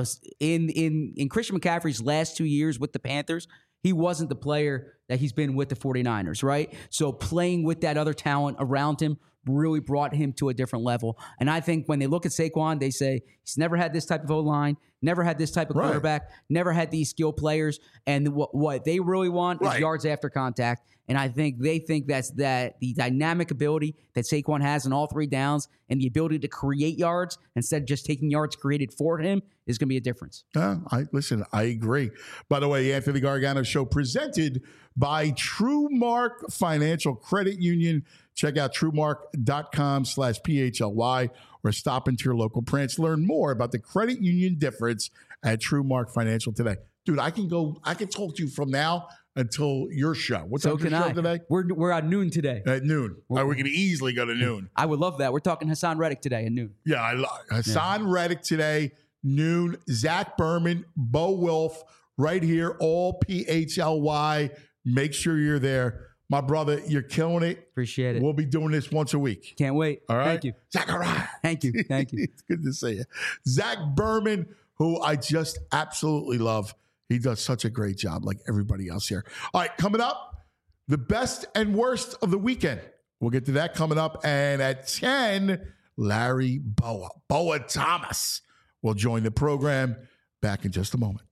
in Christian McCaffrey's last 2 years with the Panthers, he wasn't the player that he's been with the 49ers, right? So playing with that other talent around him really brought him to a different level. And I think when they look at Saquon, they say he's never had this type of O-line, never had this type of quarterback, never had these skill players. And what they really want is yards after contact. And I think they think that the dynamic ability that Saquon has in all three downs and the ability to create yards instead of just taking yards created for him is going to be a difference. I agree. By the way, the Anthony Gargano Show presented by TrueMark Financial Credit Union. Check out TrueMark.com/PHLY or stop into your local branch. Learn more about the credit union difference at TrueMark Financial today. Dude, I can talk to you from now until your show. What's up your show today? We're at noon today. At noon. We can easily go to noon. I would love that. We're talking Hassan Reddick today at noon. Yeah, Hassan Reddick today, noon. Zach Berman, Bo Wilf, right here, all PHLY. Make sure you're there. My brother, you're killing it. Appreciate it. We'll be doing this once a week. Can't wait. All right. Thank you. Zachariah. Thank you. It's good to see you. Zach Berman, who I just absolutely love. He does such a great job like everybody else here. All right, coming up, the best and worst of the weekend. We'll get to that coming up. And at 10, Larry Boa Thomas will join the program. Back in just a moment.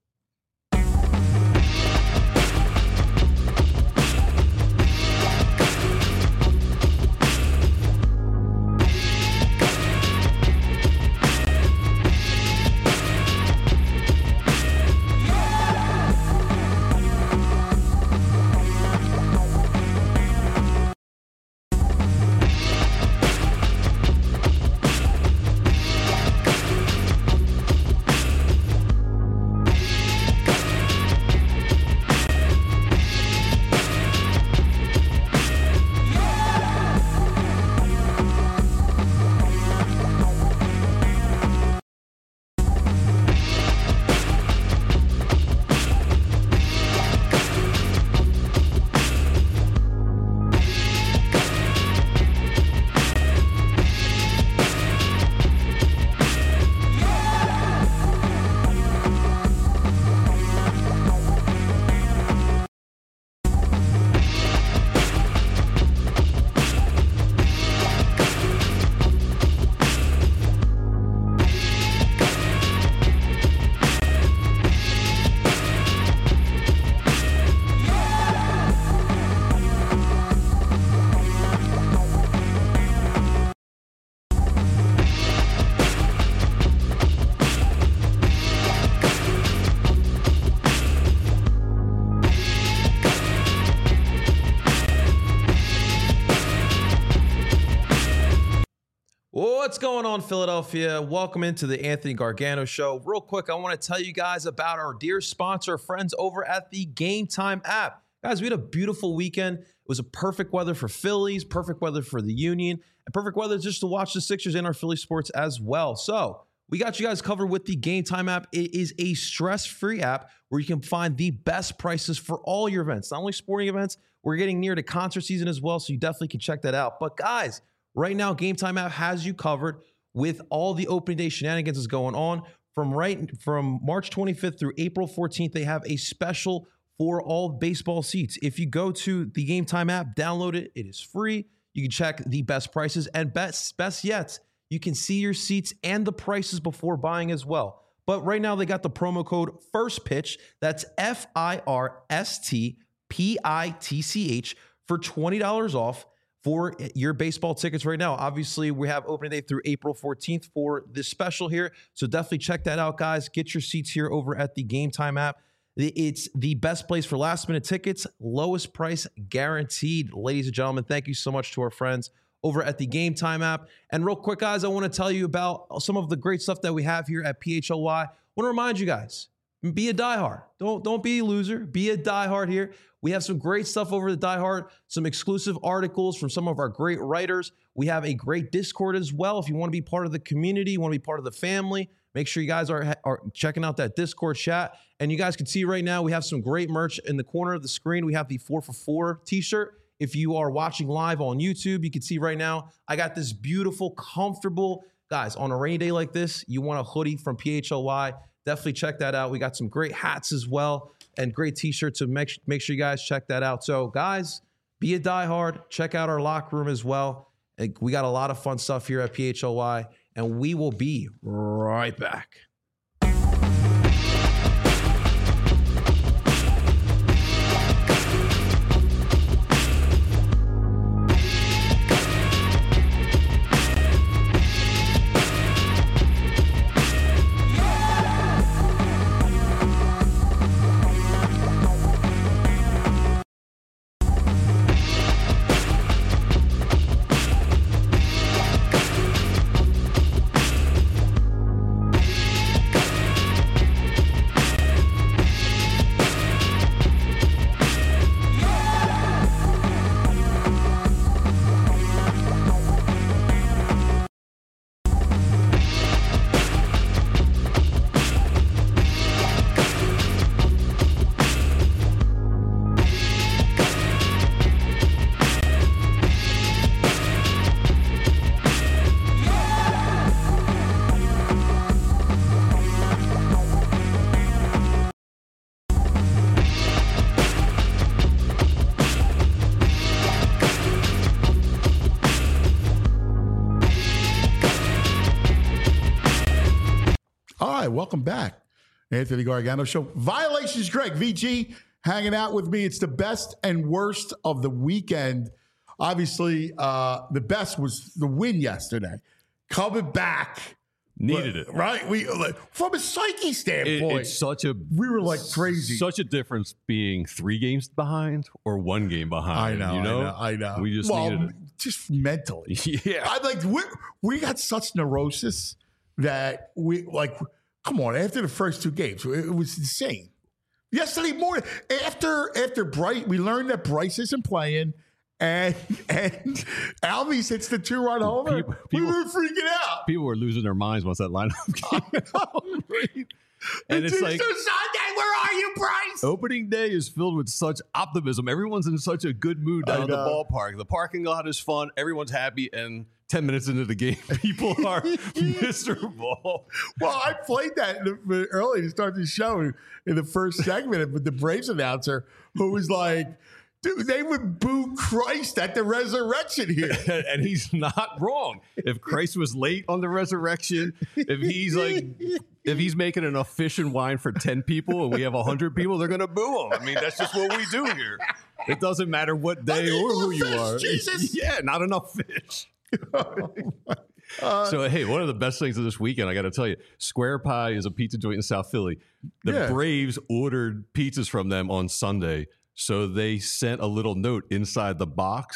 What's going on, Philadelphia? Welcome into the Anthony Gargano Show. Real quick, I want to tell you guys about our dear sponsor, friends over at the Game Time app. Guys, we had a beautiful weekend. It was a perfect weather for Phillies, perfect weather for the Union, and perfect weather just to watch the Sixers and our Philly sports as well. So we got you guys covered with the Game Time app. It is a stress-free app where you can find the best prices for all your events, not only sporting events. We're getting near to concert season as well, so you definitely can check that out. But guys, right now, Game Time app has you covered with all the opening day shenanigans that's going on. From March 25th through April 14th, they have a special for all baseball seats. If you go to the Game Time app, download it. It is free. You can check the best prices, and best yet, you can see your seats and the prices before buying as well. But right now, they got the promo code FIRSTPITCH. That's FIRSTPITCH for $20 off for your baseball tickets right now. Obviously, we have opening day through April 14th for this special here. So definitely check that out, guys. Get your seats here over at the Game Time app. It's the best place for last-minute tickets, lowest price guaranteed. Ladies and gentlemen, thank you so much to our friends over at the Game Time app. And real quick, guys, I want to tell you about some of the great stuff that we have here at PHLY. I want to remind you guys, be a diehard. Don't be a loser. Be a diehard here. We have some great stuff over the diehard, some exclusive articles from some of our great writers. We have a great Discord as well. If you want to be part of the community, you want to be part of the family, make sure you guys are checking out that Discord chat. And you guys can see right now, we have some great merch in the corner of the screen. We have the 4for4 t-shirt. If you are watching live on YouTube, you can see right now, I got this beautiful, comfortable, guys, on a rainy day like this, you want a hoodie from PHLY, definitely check that out. We got some great hats as well and great t-shirts, so make sure you guys check that out. So guys, be a diehard. Check out our locker room as well. We got a lot of fun stuff here at PHLY, and we will be right back. Welcome back. Anthony Gargano Show. Violations Greg, VG, hanging out with me. It's the best and worst of the weekend. Obviously, the best was the win yesterday. Coming back. Needed it. Right? From a psyche standpoint, we were like crazy. Such a difference being 3 games behind or 1 game behind. I know. We just needed it. Just mentally. Yeah. We got such neurosis that come on, after the first 2 games, it was insane. Yesterday morning, after Bryce, we learned that Bryce isn't playing, and Albies hits the 2-run homer. We were freaking out. People were losing their minds once that lineup came out. And it's like, Sunday, where are you, Bryce? Opening day is filled with such optimism. Everyone's in such a good mood down at the ballpark. The parking lot is fun. Everyone's happy. And 10 minutes into the game, people are miserable. Well, I played that early to start the show in the first segment with the Braves announcer who was like, dude, they would boo Christ at the resurrection here. And he's not wrong. If Christ was late on the resurrection, if he's making enough fish and wine for 10 people and we have 100 people, they're going to boo him. I mean, that's just what we do here. It doesn't matter what day or who you are. Jesus. Yeah, not enough fish. So, hey, one of the best things of this weekend, I got to tell you, Square Pie is a pizza joint in South Philly. The Braves ordered pizzas from them on Sunday. So they sent a little note inside the box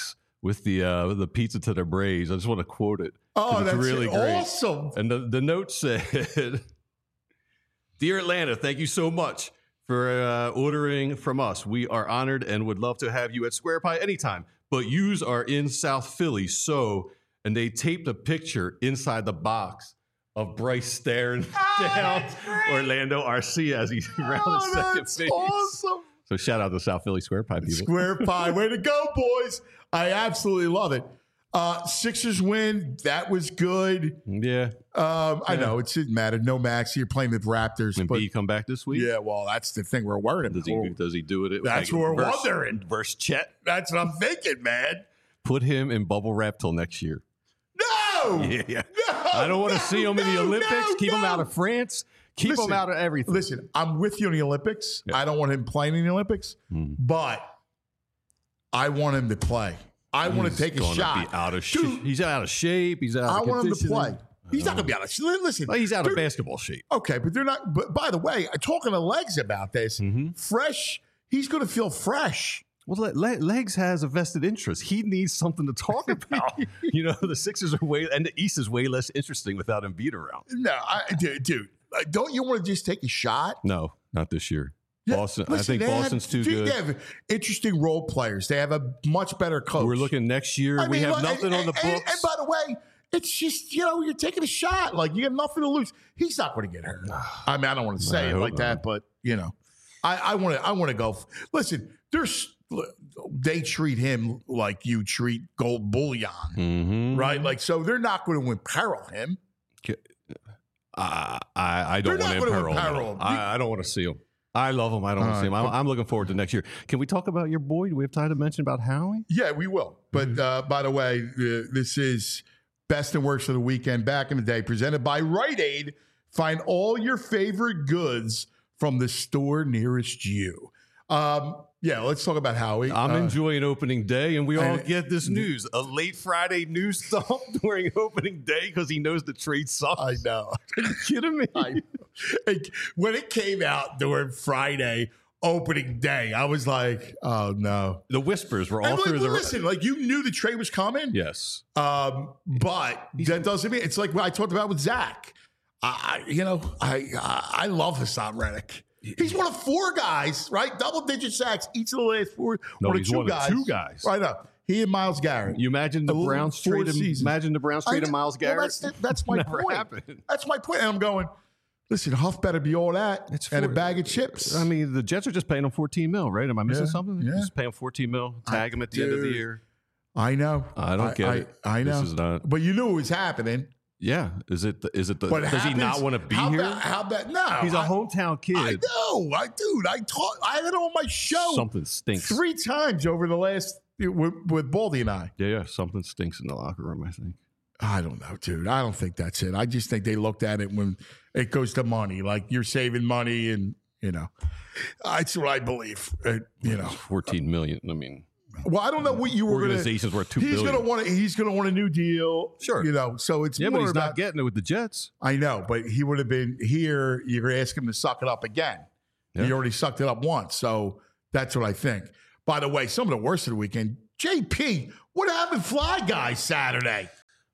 with the pizza to the Braves. I just want to quote it. Oh, it's that's really great. awesome. And the note said, "Dear Atlanta, thank you so much for ordering from us. We are honored and would love to have you at Square Pie anytime. But yous are in South Philly, so..." And they taped a picture inside the box of Bryce staring down Orlando Arcia as he's around the second That's base. awesome. So shout out to South Philly Square Pie people. Square Pie. Way to go, boys. I absolutely love it. Sixers win. That was good. Yeah. I know it didn't matter. No Max. You're playing the Raptors. When But B come back this week? yeah, well, that's the thing we're worried about. Does he do it? That's what we're wondering. Versus Chet. That's what I'm thinking, man. Put him in bubble wrap till next year. No! Yeah. No, I don't want to no, see him in the no, Olympics. no, Keep him no. out of France. Keep Listen, him out of everything. Listen, I'm with you in the Olympics. Yeah. I don't want him playing in the Olympics, but I want him to play. I want to take a Gonna shot. Be out of Dude, he's out of shape. He's out. I of want him to conditioning. play. He's not going to be out of shape. Listen, Well, he's out of dude, basketball shape. Okay, but they're not. But by the way, talking to Legs about this, fresh. He's going to feel fresh. Well, Legs has a vested interest. He needs something to talk about. The Sixers are and the East is way less interesting without Embiid around. No, dude, don't you want to just take a shot? No, not this year. Yeah, Boston. listen, I think they Boston's too good. They have interesting role players. They have a much better coach. We're looking next year. I We mean, have look, nothing on the books. And by the way, it's just you're taking a shot. Like you have nothing to lose. He's not going to get hurt. I mean, I don't want to say I it hope like that, but I want to go. Listen, they treat him like you treat gold bullion, right? Like so, they're not going to imperil him. I don't They're want not to gonna imperil imperil him. him. I don't want to see him. I love him. I don't want to see him. I'm looking forward to next year. Can we talk about your boy? Do we have time to mention about Howie? Yeah, we will. But by the way, this is Best and Worst of the Weekend back in the day, presented by Rite Aid. Find all your favorite goods from the store nearest you. Let's talk about Howie. I'm enjoying opening day, and we all and- get this news. A late Friday news dump during opening day because he knows the trade sucks. I know. Are you kidding me? When it came out during Friday opening day, I was like, oh, no. The whispers were all And through the... listen, you knew the trade was coming. Yes. But that doesn't mean it's like what I talked about with Zach. I love Hassan Reddick. He's one of four guys, right? Double-digit sacks each of the last four. No, one he's of one of two guys. Right up. He and Miles Garrett. You imagine the Browns traded Miles Garrett? That's my Never point. happened. That's my point. And I'm going, listen, Huff better be all that and a bag of chips. I mean, the Jets are just paying him $14 million, right? Am I missing something? Yeah. Just paying him $14 million, tag him at the end of the year. I know. I don't get it. I know. This is not. But you knew it was happening. Yeah. Is it the But does he not want to be here? How about no? He's a hometown kid. I know. I had it on my show Something stinks. 3 times over the last with Baldy and I. Yeah, something stinks in the locker room, I think. I don't know, dude. I don't think that's it. I just think they looked at it when it goes to money. Like you're saving money, and that's what I believe. $14 million. I mean, well, I don't know what you were going to. Organization's worth $2 billion. He's going to want a new deal. Sure. So it's yeah, more but he's about, not getting it with the Jets. I know, but he would have been here. You're going to ask him to suck it up again. Yeah. He already sucked it up once, so that's what I think. By the way, some of the worst of the weekend. JP, what happened, Fly Guys Saturday?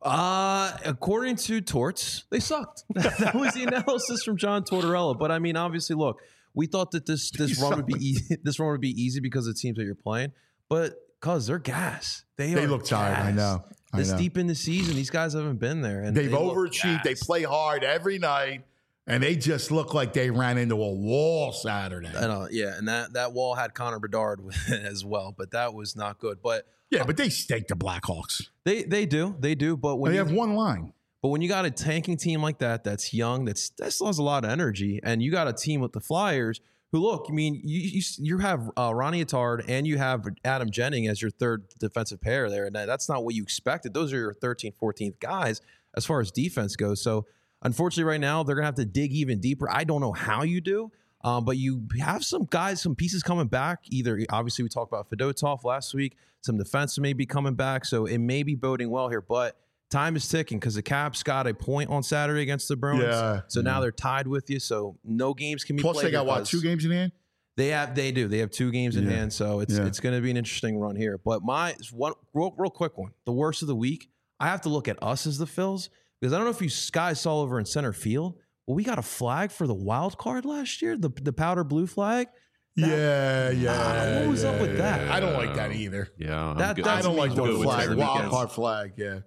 According to Torts, they sucked. That was the analysis from John Tortorella. But I mean, obviously, look, we thought that this run would be easy. This run would be easy because it seems that you're playing, but because they're gas, they look tired. I know. This deep in the season, these guys haven't been there, and They've they look overachieved. They gassed. play hard every night, and they just look like they ran into a wall Saturday. And that wall had Connor Bedard with it as well, but that was not good. But Yeah, but they stake the Blackhawks. they do. But when They you have one line. But when you got a tanking team like that, that's young, that still has a lot of energy, and you got a team with the Flyers who, look, I mean, you have Ronnie Attard and you have Adam Jennings as your third defensive pair there, and that's not what you expected. Those are your 13th, 14th guys as far as defense goes. So, unfortunately, right now, they're going to have to dig even deeper. I don't know how you do, but you have some guys, some pieces coming back. Either, obviously, we talked about Fedotov last week. Some defense may be coming back, so it may be boding well here, but time is ticking because the Caps got a point on Saturday against the Bruins. Yeah, so now they're tied with you. So no games can be Plus, played. they got, what, because 2 games in hand? They do. They have 2 games in Yeah. hand, so it's going to be an interesting run here. But real quick one, the worst of the week. I have to look at us as the Phils because I don't know if you guys saw over in center field. Well, we got a flag for the wild card last year, the powder blue flag. What was up with that? I don't like that either. Yeah, I don't like good the with flag, Terry wild Weekends. card flag. Yeah,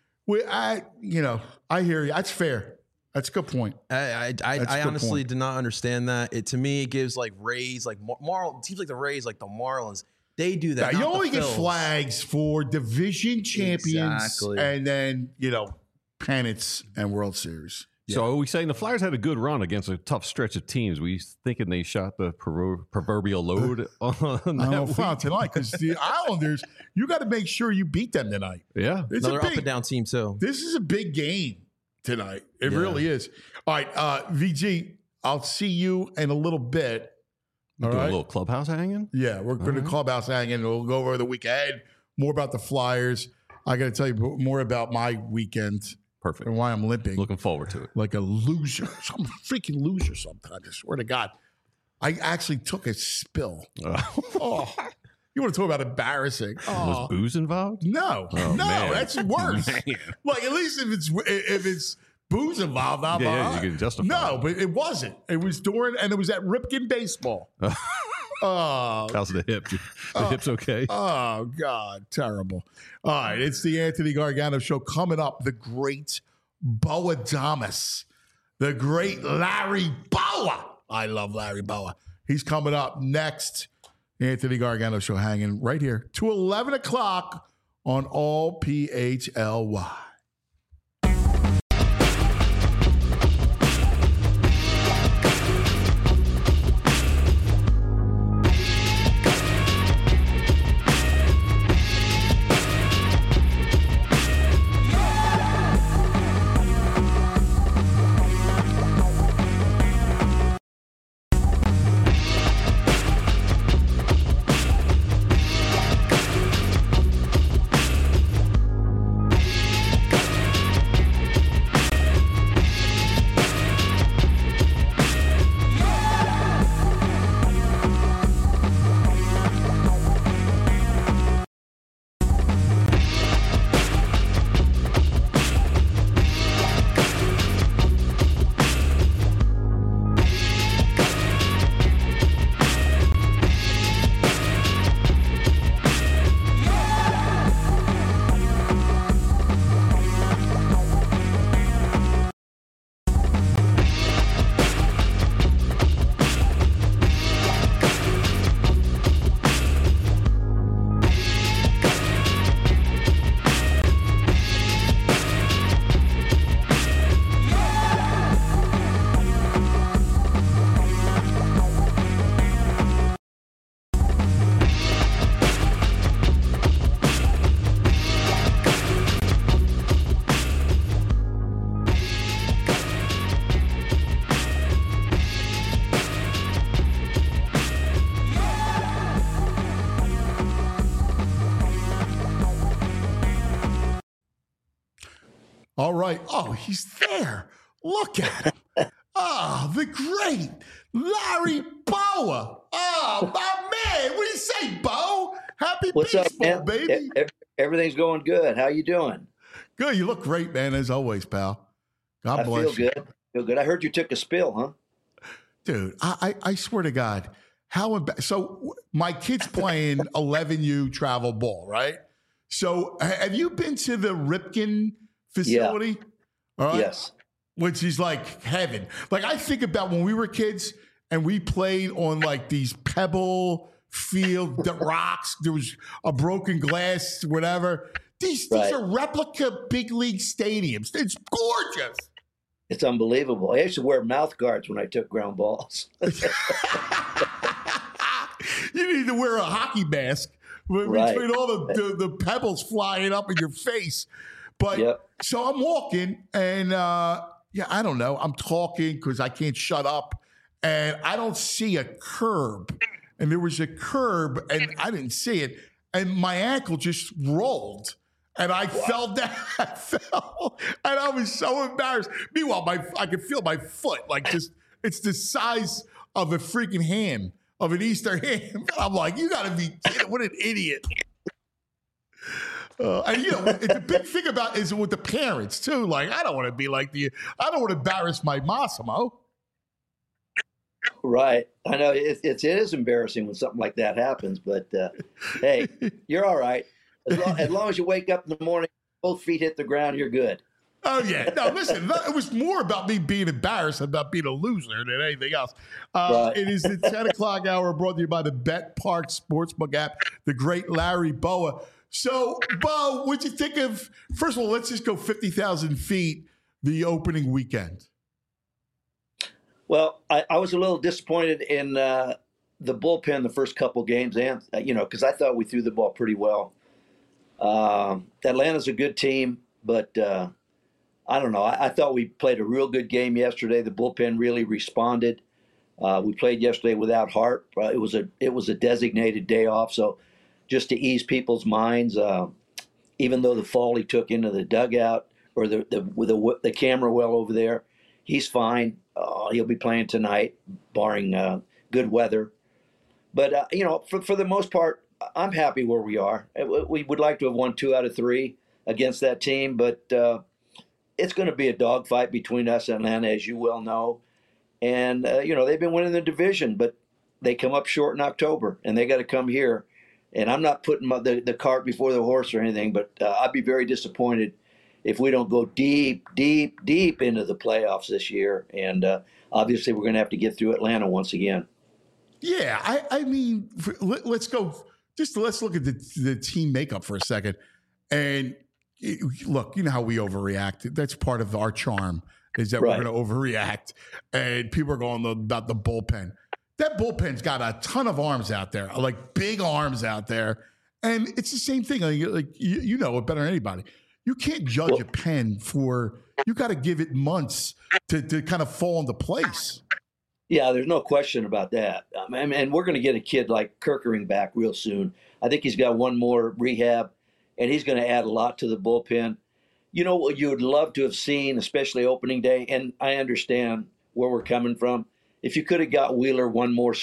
I hear you. That's fair. That's a good point. I honestly did not understand that. To me, it gives like Rays, like teams like the Rays, like the Marlins. They do that. Now, you not the only get Phils. flags for division champions Exactly. and then, pennants and World Series. So are we saying the Flyers had a good run against a tough stretch of teams? We thinking they shot the proverbial load on I don't know that if tonight week? because the Islanders, you got to make sure you beat them tonight. Yeah. It's Another a up big, and down team too. This is a big game tonight. It really is. All right, VG, I'll see you in a little bit. All Do a right. little clubhouse hanging? Yeah, we're going to clubhouse hanging. We'll go over the week ahead, more about the Flyers. I got to tell you more about my weekend Perfect. and why I'm limping Looking forward to it. like a loser. I'm a freaking loser sometimes. I swear to God. I actually took a spill. Oh, you want to talk about embarrassing? Was booze involved? No, Oh, man. that's worse. Man. Like at least if it's booze involved, I'm all Yeah, right. you can justify No, it. but it wasn't. It was during, and it was at Ripken baseball. Oh, How's the hip? The hip's okay? oh God, terrible. All right, it's the Anthony Gargano Show coming up. The great Bo Adames, the great Larry Bowa. I love Larry Bowa. He's coming up next. Anthony Gargano Show hanging right here to 11 o'clock on all PHLY. All right. Oh, he's there. Look at him. Oh, the great Larry Bowa. Oh, my man. What do you say, Bo? Happy What's up, baseball, man? baby. Everything's going good. How you doing? Good. You look great, man, as always, pal. God I bless feel you. good. Feel good. I heard you took a spill, huh? Dude, I swear to God, so my kid's playing 11U travel ball, right? So have you been to the Ripken facility? All right. Yes. Which is like heaven. Like I think about when we were kids and we played on like these pebble field the rocks. There was a broken glass, whatever. These are replica big league stadiums. It's gorgeous. It's unbelievable. I used to wear mouth guards when I took ground balls. You need to wear a hockey mask Right. between all the pebbles flying up in your face. But so I'm walking and I don't know. I'm talking because I can't shut up and I don't see a curb. And there was a curb and I didn't see it. And my ankle just rolled. And I fell down. I fell, and I was so embarrassed. Meanwhile, I could feel my foot like just—it's the size of a freaking hand of an Easter ham. I'm like, you got to be kidding. What an idiot. And the big thing about is with the parents too. Like, I don't want to be like I don't want to embarrass my Massimo. Right. I know it is embarrassing when something like that happens, but hey, you're all right. As long as you wake up in the morning, both feet hit the ground, you're good. Oh, yeah. No, listen, it was more about me being embarrassed about being a loser than anything else. Right. It is the 10 o'clock hour brought to you by the Bet Park Sportsbook app, the great Larry Boa. So, Bo, what'd you think of, first of all, let's just go 50,000 feet, the opening weekend. Well, I was a little disappointed in the bullpen the first couple games, and because I thought we threw the ball pretty well. Atlanta's a good team, but I don't know. I thought we played a real good game yesterday. The bullpen really responded. We played yesterday without Hart. It was a designated day off, so just to ease people's minds, even though the fall he took into the dugout or the camera well over there, he's fine. He'll be playing tonight, barring good weather. But for the most part, I'm happy where we are. We would like to have won 2 out of 3 against that team, but it's going to be a dogfight between us and Atlanta, as you well know. And they've been winning the division, but they come up short in October, and they got to come here. And I'm not putting the cart before the horse or anything, but I'd be very disappointed if we don't go deep, deep, deep into the playoffs this year. And obviously we're going to have to get through Atlanta once again. Yeah, I mean, let's go. Let's look at the team makeup for a second. And look, you know how we overreact. That's part of our charm, is that we're going to overreact. And people are going about the bullpen. That bullpen's got a ton of arms out there, like big arms out there. And it's the same thing. Like you know it better than anybody. You can't judge a pen you got to give it months to kind of fall into place. Yeah, there's no question about that. And we're going to get a kid like Kerkering back real soon. I think he's got one more rehab, and he's going to add a lot to the bullpen. You know what you would love to have seen, especially opening day, and I understand where we're coming from. If you could have got Wheeler one more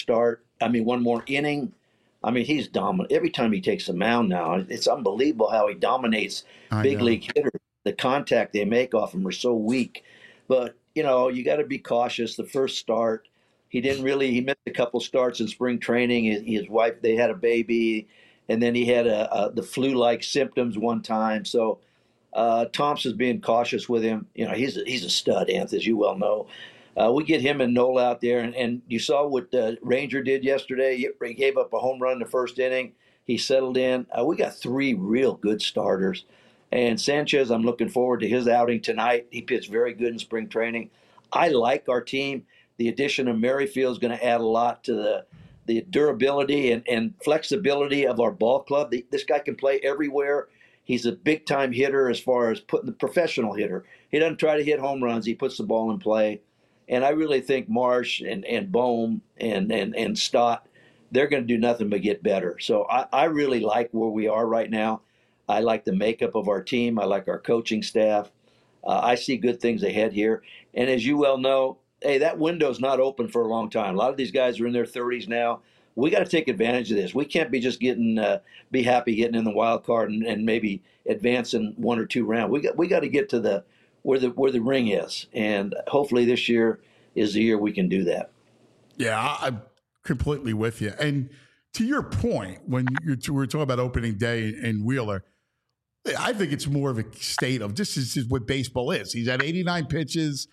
inning, he's dominant. Every time he takes the mound now, it's unbelievable how he dominates big league hitters. The contact they make off him are so weak. But, you got to be cautious. The first start, he missed a couple starts in spring training. His wife, they had a baby, and then he had the flu-like symptoms one time. So Thompson's being cautious with him. He's a stud, Anth, as you well know. We get him and Nola out there, and you saw what Ranger did yesterday. He gave up a home run in the first inning. He settled in. We got 3 real good starters. And Sanchez, I'm looking forward to his outing tonight. He pitched very good in spring training. I like our team. The addition of Merrifield is going to add a lot to the durability and flexibility of our ball club. This guy can play everywhere. He's a big-time hitter as far as putting the professional hitter. He doesn't try to hit home runs. He puts the ball in play. And I really think Marsh and Bohm and Stott, they're going to do nothing but get better. So I really like where we are right now. I like the makeup of our team. I like our coaching staff. I see good things ahead here. And as you well know, hey, that window's not open for a long time. A lot of these guys are in their 30s now. We got to take advantage of this. We can't be just be happy getting in the wild card and maybe advancing 1 or 2 rounds. We got to get to where the ring is, and hopefully this year is the year we can do that. Yeah, I'm completely with you. And to your point, when we're talking about opening day and Wheeler, I think it's more of a state of this is what baseball is. He's at 89 pitches.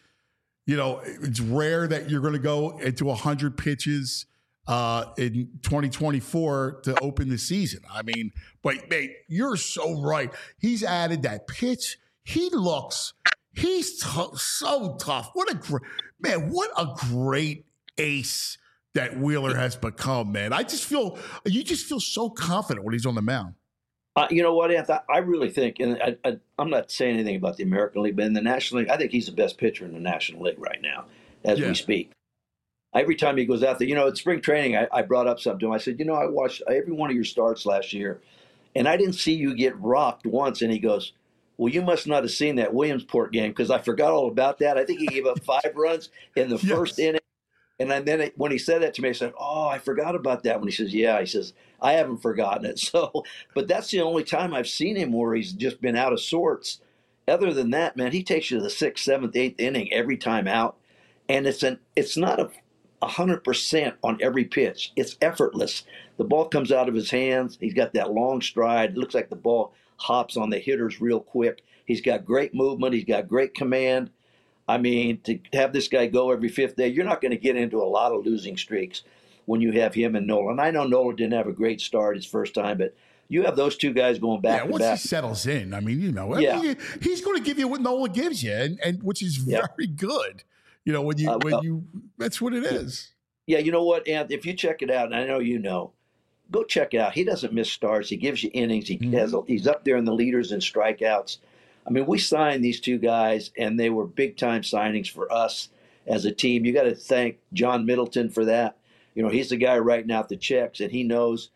It's rare that you're going to go into 100 pitches in 2024 to open the season. But mate, you're so right. He's added that pitch. He's so tough. What a great ace that Wheeler has become, man. You just feel so confident when he's on the mound. You know what, Anth? I really think, and I'm not saying anything about the American League, but in the National League, I think he's the best pitcher in the National League right now as we speak. Every time he goes out there, at spring training, I brought up something to him. I said, I watched every one of your starts last year, and I didn't see you get rocked once. And he goes, well, you must not have seen that Williamsport game because I forgot all about that. I think he gave up 5 runs in the first inning. And then when he said that to me, I said, "Oh, I forgot about that." When he says, "Yeah," he says, "I haven't forgotten it." So, but that's the only time I've seen him where he's just been out of sorts. Other than that, man, he takes you to the 6th, 7th, 8th inning every time out, and it's not 100% on every pitch. It's effortless. The ball comes out of his hands. He's got that long stride. It looks like the ball hops on the hitters real quick. He's got great movement. He's got great command. I mean, to have this guy go every 5th day, you're not going to get into a lot of losing streaks when you have him and Nola. I know Nola didn't have a great start his first time, but you have those two guys going back to back. Once he settles in, I mean, he's going to give you what Nola gives you, and which is very good. That's what it is. Yeah, you know what, Anth? If you check it out, and I know you know, go check it out. He doesn't miss starts. He gives you innings. He's up there in the leaders and strikeouts. I mean, we signed these two guys, and they were big-time signings for us as a team. You got to thank John Middleton for that. He's the guy writing out the checks, and he knows.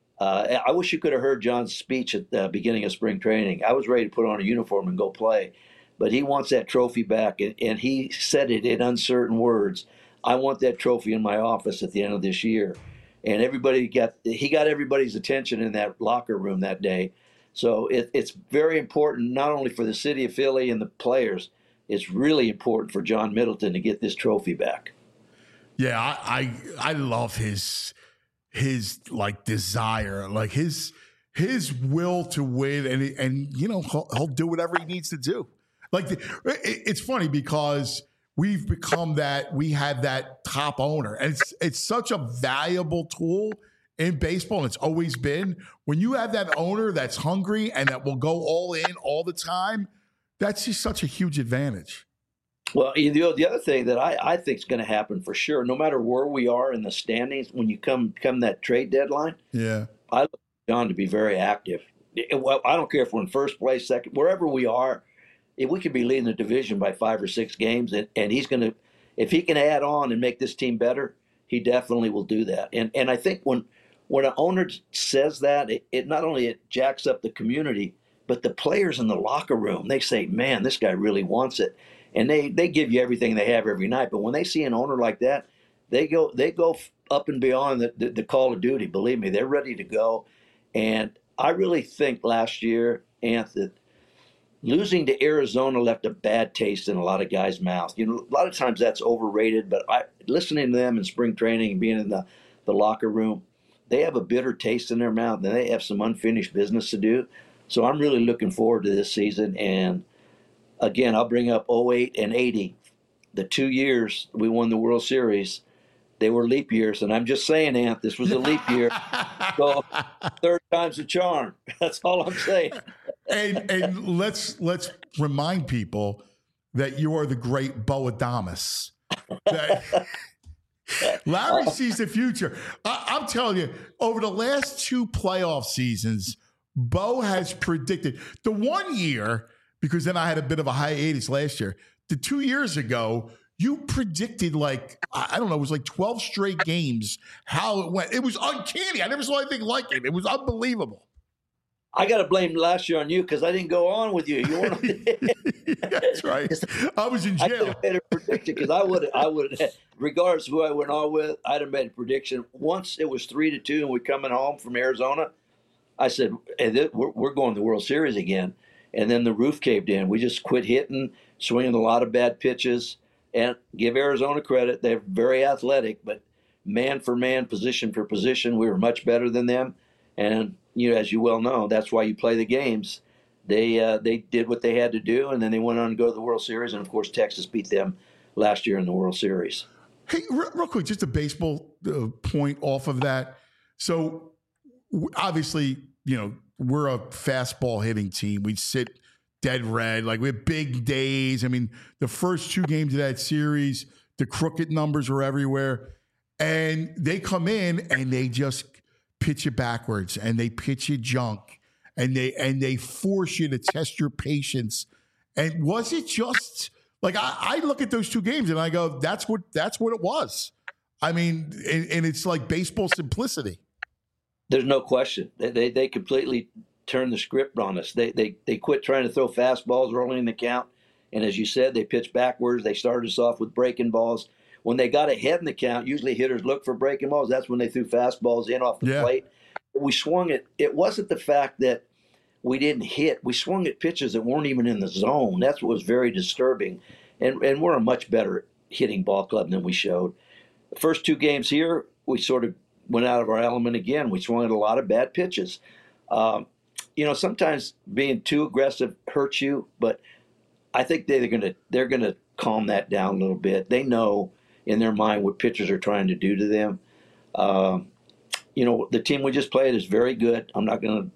I wish you could have heard John's speech at the beginning of spring training. I was ready to put on a uniform and go play, but he wants that trophy back, and he said it in uncertain words. I want that trophy in my office at the end of this year. And he got everybody's attention in that locker room that day. So it's very important, not only for the city of Philly and the players, it's really important for John Middleton to get this trophy back. Yeah, I love his like desire, like his will to win, and he'll do whatever he needs to do. Like it's funny because we've become that, we have that top owner, and it's such a valuable tool in baseball, and it's always been. When you have that owner that's hungry and that will go all in all the time, that's just such a huge advantage. Well, the other thing that I think is going to happen for sure, no matter where we are in the standings, when you come that trade deadline, I look for John to be very active. Well, I don't care if we're in first place, second, wherever we are. If we could be leading the division by 5 or 6 games, and he's going to, if he can add on and make this team better, he definitely will do that. And I think when an owner says that, it not only it jacks up the community, but the players in the locker room, they say, "Man, this guy really wants it." And they give you everything they have every night. But when they see an owner like that, they go up and beyond the call of duty. Believe me, they're ready to go. And I really think last year, Anthony, losing to Arizona left a bad taste in a lot of guys' mouths. A lot of times that's overrated, but listening to them in spring training and being in the locker room, they have a bitter taste in their mouth, and they have some unfinished business to do. So I'm really looking forward to this season. And again, I'll bring up 08 and 80, the 2 years we won the World Series. They were leap years, and I'm just saying, Ant, this was a leap year. So third time's a charm. That's all I'm saying. And let's remind people that you are the great Bo Adames. Larry sees the future. I'm telling you, over the last 2 playoff seasons, Bo has predicted the 1 year, because then I had a bit of a hiatus last year. The 2 years ago, you predicted I don't know, it was like 12 straight games, how it went. It was uncanny. I never saw anything like it. It was unbelievable. I got to blame last year on you because I didn't go on with you. You weren't. That's right. I was in jail. I could have made a prediction because I would, regardless of who I went on with, I'd have made a prediction. Once it was 3-2 and we're coming home from Arizona, I said, hey, we're going to the World Series again. And then the roof caved in. We just quit hitting, swinging a lot of bad pitches. And give Arizona credit, they're very athletic, but man for man, position for position, we were much better than them. And as you well know, that's why you play the games. They did what they had to do, and then they went on to go to the World Series. And of course, Texas beat them last year in the World Series. Hey, real quick, just a baseball point off of that. So obviously, we're a fastball hitting team. We sit dead red. We have big days. I mean, the first 2 games of that series, the crooked numbers are everywhere. And they come in and they just pitch you backwards, and they pitch you junk, and they force you to test your patience. And was it just I look at those 2 games and I go, that's what it was. I mean, and it's like baseball simplicity. There's no question. They completely turned the script on us. They quit trying to throw fastballs early in the count. And as you said, they pitched backwards. They started us off with breaking balls. when they got ahead in the count, usually hitters look for breaking balls. That's when they threw fastballs in off the plate. We swung it. It wasn't the fact that we didn't hit. We swung at pitches that weren't even in the zone. That's what was very disturbing. And we're a much better hitting ball club than we showed. The first 2 games here, we sort of went out of our element again. We swung at a lot of bad pitches. Sometimes being too aggressive hurts you, but I think they're gonna calm that down a little bit. They know in their mind what pitchers are trying to do to them. The team we just played is very good. I'm not going to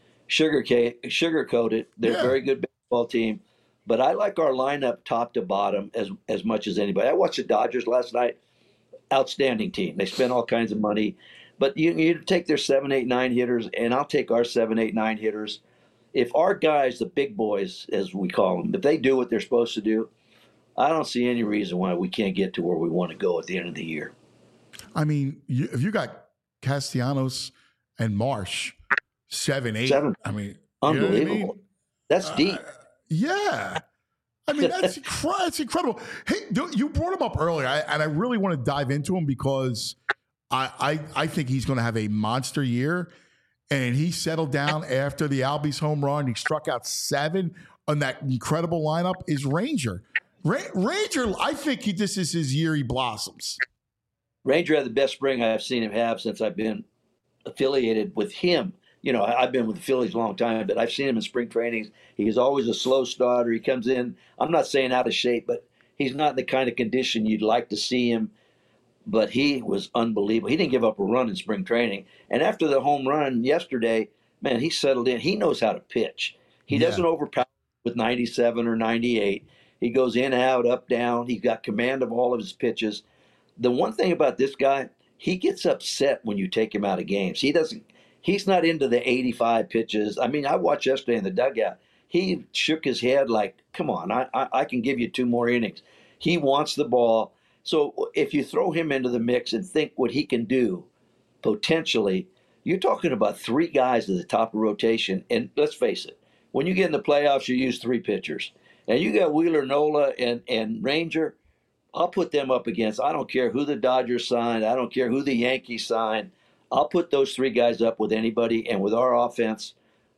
sugarcoat it. They're a very good baseball team, but I like our lineup top to bottom as much as anybody. I watched the Dodgers last night. Outstanding team. They spent all kinds of money, but you take their 7, 8, 9 hitters, and I'll take our 7, 8, 9 hitters. If our guys, the big boys, as we call them, if they do what they're supposed to do, I don't see any reason why we can't get to where we want to go at the end of the year. I mean, if you got Castellanos and Marsh, 7, 8. I mean, unbelievable. You know what I mean? That's deep. Yeah. I mean, that's incredible. Hey, you brought him up earlier, and I really want to dive into him because I think he's going to have a monster year. And he settled down after the Albies home run. He struck out 7 on that incredible lineup. Is Ranger. Ranger, I think this is his year. He blossoms. Ranger had the best spring I've seen him have since I've been affiliated with him. I've been with the Phillies a long time, but I've seen him in spring trainings. He's always a slow starter. He comes in, I'm not saying out of shape, but he's not in the kind of condition you'd like to see him. But he was unbelievable. He didn't give up a run in spring training. And after the home run yesterday, man, he settled in. He knows how to pitch. He doesn't overpower with 97 or 98. He goes in, out, up, down. He's got command of all of his pitches. The one thing about this guy, he gets upset when you take him out of games. He's not into the 85 pitches. I mean, I watched yesterday in the dugout. He shook his head like, come on, I can give you 2 more innings. He wants the ball. So if you throw him into the mix and think what he can do, potentially, you're talking about 3 guys at the top of rotation. And let's face it, when you get in the playoffs, you use 3 pitchers. And you got Wheeler, Nola, and Ranger. I'll put them up against, I don't care who the Dodgers signed. I don't care who the Yankees signed. I'll put those 3 guys up with anybody. And with our offense,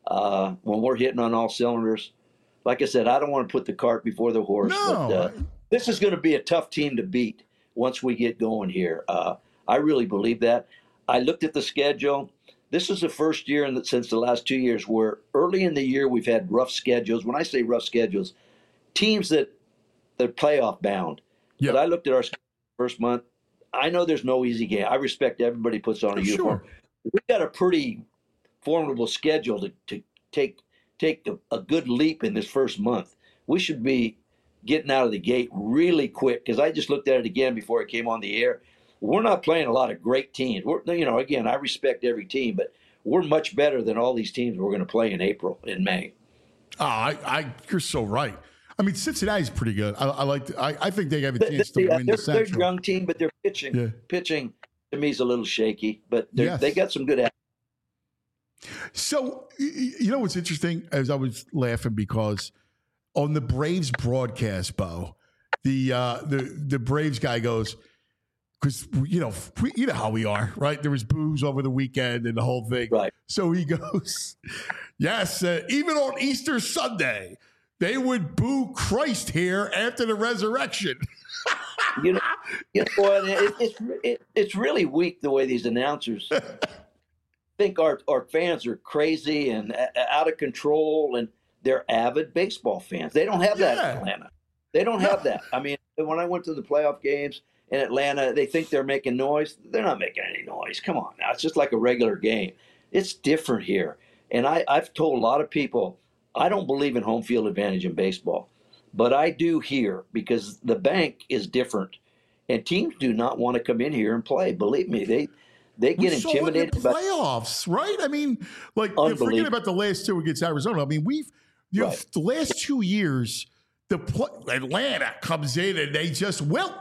when we're hitting on all cylinders, like I said, I don't want to put the cart before the horse. No. But this is going to be a tough team to beat once we get going here. I really believe that. I looked at the schedule. This is the first year since the last 2 years where early in the year we've had rough schedules. When I say rough schedules, teams that are playoff bound. Yep. But I looked at our first month. I know there's no easy game. I respect everybody puts on a uniform. We got a pretty formidable schedule to take a good leap in this first month. We should be getting out of the gate really quick because I just looked at it again before it came on the air. We're not playing a lot of great teams. Again, I respect every team, but we're much better than all these teams we're going to play in April and May. You're so right. I mean, Cincinnati's pretty good. I think they have a chance to win the Central. They're a young team, but their pitching to me is a little shaky. But they got some good. So you know what's interesting? As I was laughing because on the Braves broadcast, Bo, the Braves guy goes, because you know how we are, right? There was booze over the weekend and the whole thing, right? So he goes, yes, even on Easter Sunday, they would boo Christ here after the resurrection. you know what? It's really weak the way these announcers think our fans are crazy and out of control, and they're avid baseball fans. They don't have that in Atlanta. They don't have that. I mean, when I went to the playoff games in Atlanta, they think they're making noise. They're not making any noise. Come on now. It's just like a regular game. It's different here. And I've told a lot of people, I don't believe in home field advantage in baseball, but I do here because the bank is different, and teams do not want to come in here and play. Believe me, they get intimidated by playoffs, right? I mean, like forget about the last 2 against Arizona. I mean, the last 2 years, Atlanta comes in and they just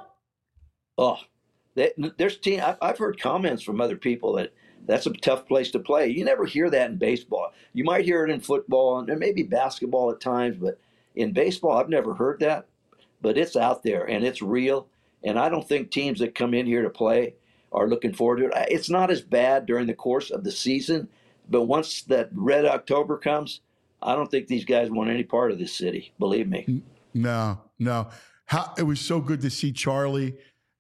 there's team. I've heard comments from other people that's a tough place to play. You never hear that in baseball. You might hear it in football and maybe basketball at times, but in baseball, I've never heard that. But it's out there and it's real. And I don't think teams that come in here to play are looking forward to it. It's not as bad during the course of the season, but once that red October comes, I don't think these guys want any part of this city. Believe me. No. It was so good to see Charlie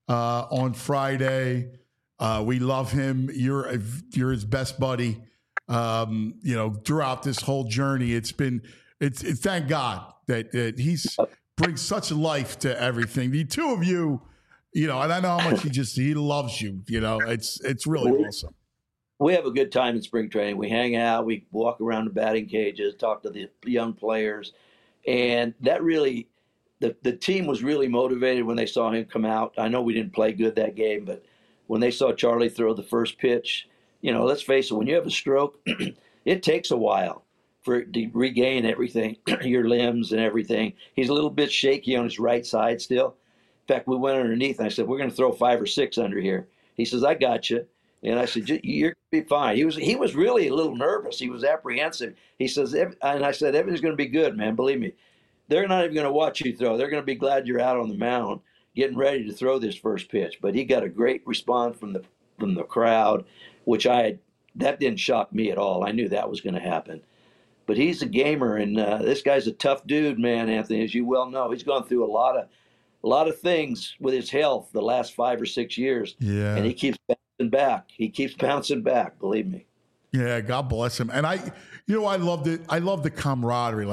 on Friday. We love him. You're his best buddy. Throughout this whole journey, it's thank God that he's brings such life to everything. The two of you, and I know how much he loves you. It's really awesome. We have a good time in spring training. We hang out, we walk around the batting cages, talk to the young players, and that really, the team was really motivated when they saw him come out. I know we didn't play good that game, but when they saw Charlie throw the first pitch, let's face it, when you have a stroke, it takes a while for it to regain everything, your limbs and everything. He's a little bit shaky on his right side still. In fact, we went underneath, and I said, we're going to throw 5 or 6 under here. He says, I got you. And I said, you're going to be fine. He was really a little nervous. He was apprehensive. He says, and I said, everything's going to be good, man. Believe me. They're not even going to watch you throw. They're going to be glad you're out on the mound getting ready to throw this first pitch. But he got a great response from the crowd, which that didn't shock me at all. I knew that was going to happen. But he's a gamer, and this guy's a tough dude, man, Anthony, as you well know. He's gone through a lot of things with his health the last 5 or 6 years. Yeah. And he keeps bouncing back. He keeps bouncing back, believe me. Yeah, God bless him. And I loved it. I love the camaraderie.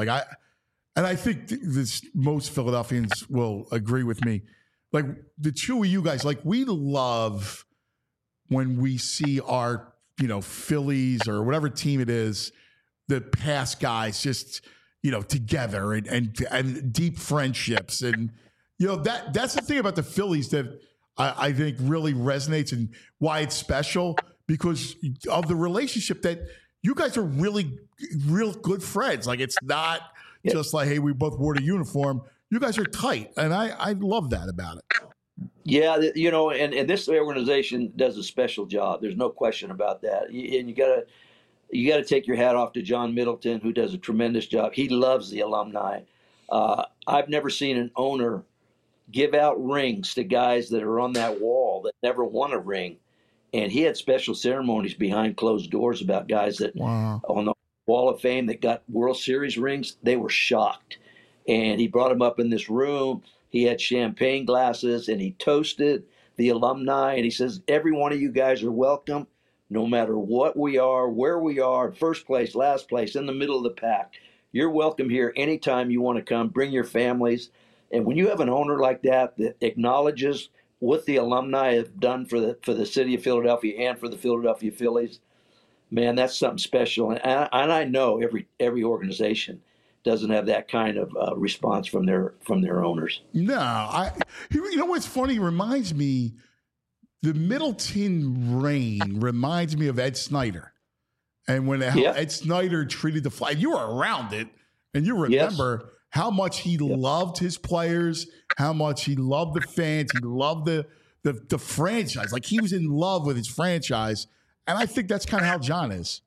I think most Philadelphians will agree with me. Like the two of you guys, we love when we see our, Phillies or whatever team it is, the past guys just, together and deep friendships. And, that's the thing about the Phillies that I think really resonates and why it's special, because of the relationship that you guys are really, real good friends. It's not just like, hey, we both wore the uniform. You guys are tight. And I love that about it. Yeah, and this organization does a special job. There's no question about that. And you got to take your hat off to John Middleton, who does a tremendous job. He loves the alumni. I've never seen an owner give out rings to guys that are on that wall that never won a ring. And he had special ceremonies behind closed doors about guys that on the Wall of Fame that got World Series rings. They were shocked. And he brought them up in this room. He had champagne glasses, and he toasted the alumni. And he says, every one of you guys are welcome, no matter what we are, where we are, first place, last place, in the middle of the pack. You're welcome here anytime you want to come. Bring your families. And when you have an owner like that acknowledges what the alumni have done for the city of Philadelphia and for the Philadelphia Phillies, man, that's something special. And I know every organization doesn't have that kind of response from their owners. No, what's funny? Reminds me, the Middleton reign reminds me of Ed Snyder, and when Ed Snyder treated the flag, you were around it, and you remember how much he loved his players, how much he loved the fans, he loved the franchise. Like, he was in love with his franchise, and I think that's kind of how John is.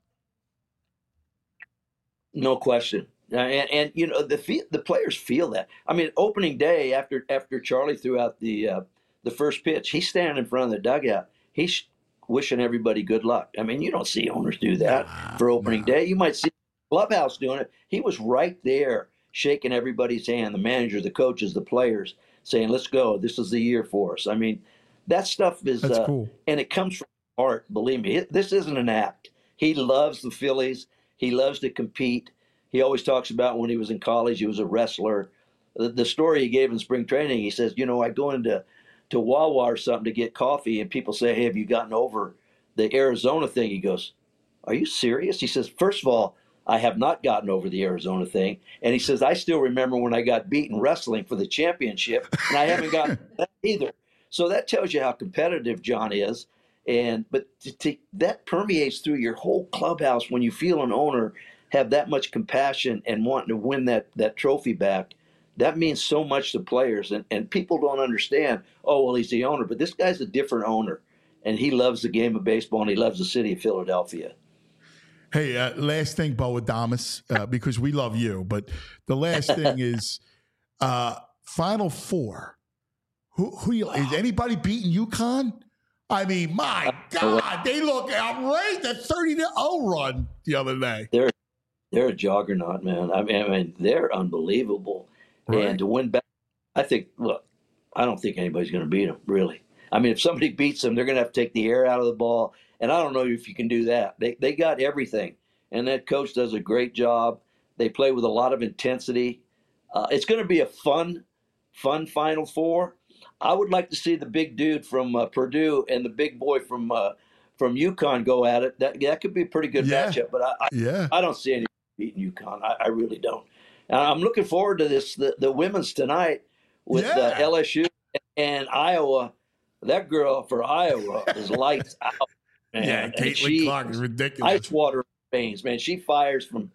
No question. And the players feel that. I mean, opening day after Charlie threw out the first pitch, he's standing in front of the dugout. He's wishing everybody good luck. I mean, you don't see owners do that for opening day. You might see the clubhouse doing it. He was right there shaking everybody's hand, the manager, the coaches, the players, saying, let's go. This is the year for us. I mean, that stuff is cool. And it comes from heart, believe me. This isn't an act. He loves the Phillies. He loves to compete. He always talks about when he was in college, he was a wrestler. The story he gave in spring training, he says, I go into Wawa or something to get coffee, and people say, hey, have you gotten over the Arizona thing? He goes, are you serious? He says, first of all, I have not gotten over the Arizona thing. And he says, I still remember when I got beaten wrestling for the championship, and I haven't gotten that either. So that tells you how competitive John is. But that permeates through your whole clubhouse when you feel an owner have that much compassion and wanting to win that trophy back. That means so much to players. And people don't understand, oh, well, he's the owner. But this guy's a different owner, and he loves the game of baseball, and he loves the city of Philadelphia. Hey, last thing, Bo Adames, because we love you. But the last thing is Final Four. Is anybody beating UConn? I mean, my God, they look outrageous. That 30-0 run the other day. They're a juggernaut, man. I mean, they're unbelievable. Right. And to win back, I don't think anybody's going to beat them, really. I mean, if somebody beats them, they're going to have to take the air out of the ball. And I don't know if you can do that. They got everything. And that coach does a great job. They play with a lot of intensity. It's going to be a fun Final Four. I would like to see the big dude from Purdue and the big boy from UConn go at it. That could be a pretty good matchup. But I don't see any beating UConn. I really don't. And I'm looking forward to this. The women's tonight with LSU and Iowa. That girl for Iowa is lights out, man. Yeah, Caitlin Clark is ridiculous. Ice water veins, man. She fires from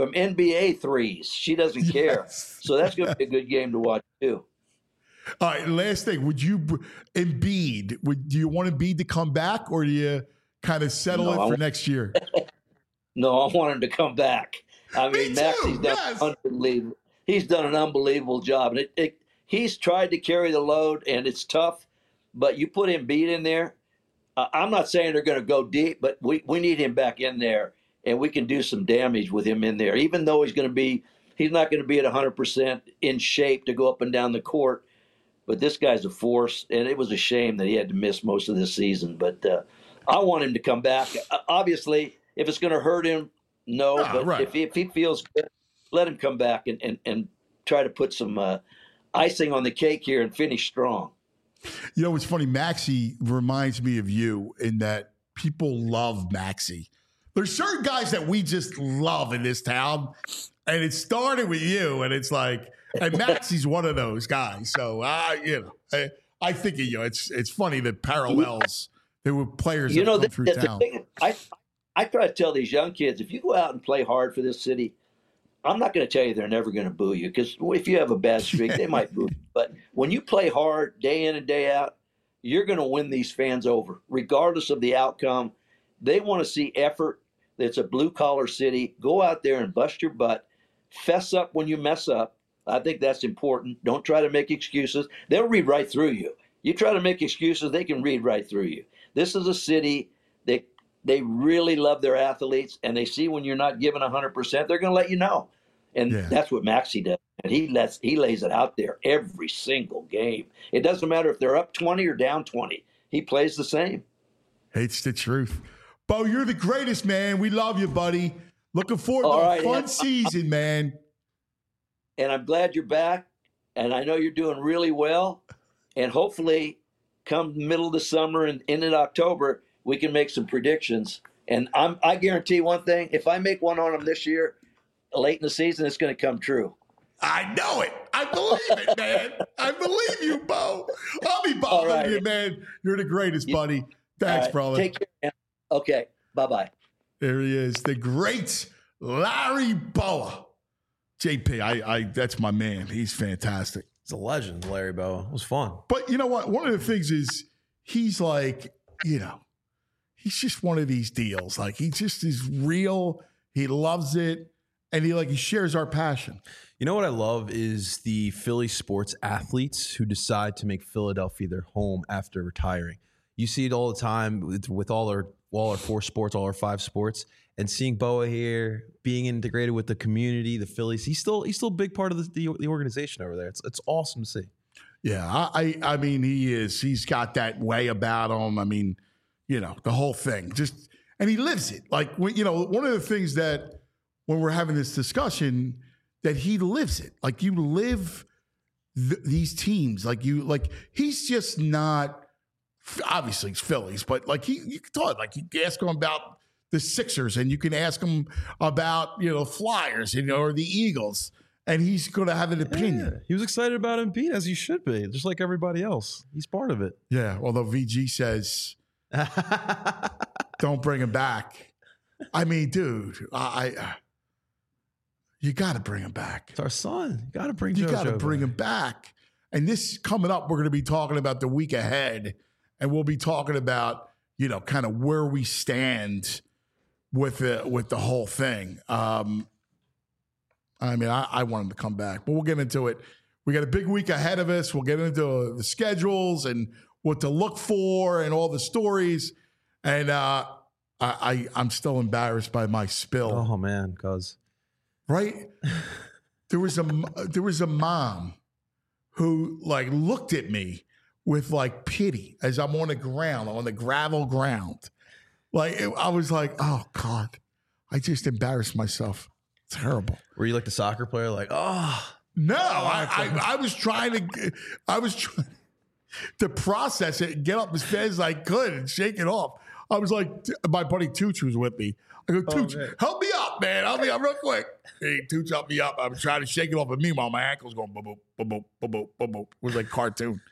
NBA threes. She doesn't care. So that's going to be a good game to watch too. All right, last thing. Would you, Embiid, do you want Embiid to come back, or do you kind of settle it for next year? No, I want him to come back. I mean, Maxey's done unbelievable. He's done an unbelievable job. And he's tried to carry the load, and it's tough. But you put Embiid in there, I'm not saying they're going to go deep, but we need him back in there, and we can do some damage with him in there. Even though he's not going to be at 100% in shape to go up and down the court. But this guy's a force, and it was a shame that he had to miss most of this season. But I want him to come back. Obviously, if it's going to hurt him, no. But if he feels good, let him come back and try to put some icing on the cake here and finish strong. You know, it's funny. Maxey reminds me of you in that people love Maxey. There's certain guys that we just love in this town, and it started with you, and it's like – and Maxey's one of those guys. So, I think of you. It's funny that parallels. There were players that come through town. I try to tell these young kids, if you go out and play hard for this city, I'm not going to tell you they're never going to boo you, because if you have a bad streak, they might boo you. But when you play hard day in and day out, you're going to win these fans over, regardless of the outcome. They want to see effort. It's a blue-collar city. Go out there and bust your butt. Fess up when you mess up. I think that's important. Don't try to make excuses. They'll read right through you. You try to make excuses, they can read right through you. This is a city that they really love their athletes, and they see when you're not giving 100%, they're going to let you know. And that's what Maxey does. And he lays it out there every single game. It doesn't matter if they're up 20 or down 20. He plays the same. It's the truth. Bo, you're the greatest, man. We love you, buddy. Looking forward to a fun season, man. And I'm glad you're back, and I know you're doing really well. And hopefully, come the middle of the summer and into October, we can make some predictions. And I guarantee one thing: if I make one on them this year, late in the season, it's going to come true. I know it. I believe it, man. I believe you, Bo. I'll be bothering you, man. You're the greatest, buddy. Thanks, brother. Take care, man. Okay. Bye-bye. There he is, the great Larry Bowa. JP, that's my man. He's fantastic. He's a legend, Larry Bowa. It was fun. But you know what? One of the things is he's like, he's just one of these deals. Like, he just is real. He loves it. And he shares our passion. You know what I love is the Philly sports athletes who decide to make Philadelphia their home after retiring. You see it all the time with all our 4 sports, all our 5 sports. And seeing Bowa here, being integrated with the community, the Phillies, he's still a big part of the organization over there. It's awesome to see. Yeah, I mean, he is. He's got that way about him. I mean, the whole thing. And he lives it. Like, one of the things that when we're having this discussion, that he lives it. Like, you live these teams. He's just not. Obviously, it's Phillies, but you can talk. You can ask him about the Sixers, and you can ask him about Flyers, or the Eagles, and he's going to have an opinion. Yeah. He was excited about Embiid, as he should be, just like everybody else. He's part of it. Yeah, although VG says, don't bring him back. I mean, dude, you got to bring him back. It's our son. You got to bring. You got to bring him back. And this coming up, we're going to be talking about the week ahead, and we'll be talking about kind of where we stand with the whole thing. I mean, I want him to come back, but we'll get into it We got a big week ahead of us. We'll get into the schedules and what to look for and all the stories. And I'm still embarrassed by my spill. Oh man, cuz right? There was a mom who like looked at me with like pity as I'm on the ground, on the gravel ground. Like I was like, oh God, I just embarrassed myself. Terrible. Were you like the soccer player? Like, oh no, I was trying to process it and get up as fast as I could and shake it off. I was like, my buddy Tooch was with me. I go, Tooch, help me up, man. Help me up real quick. Hey, Tooch, help me up. I'm trying to shake it off. And meanwhile, my ankle's going boop, boop, boop, boop, boop, boop, boop. It was like cartoon.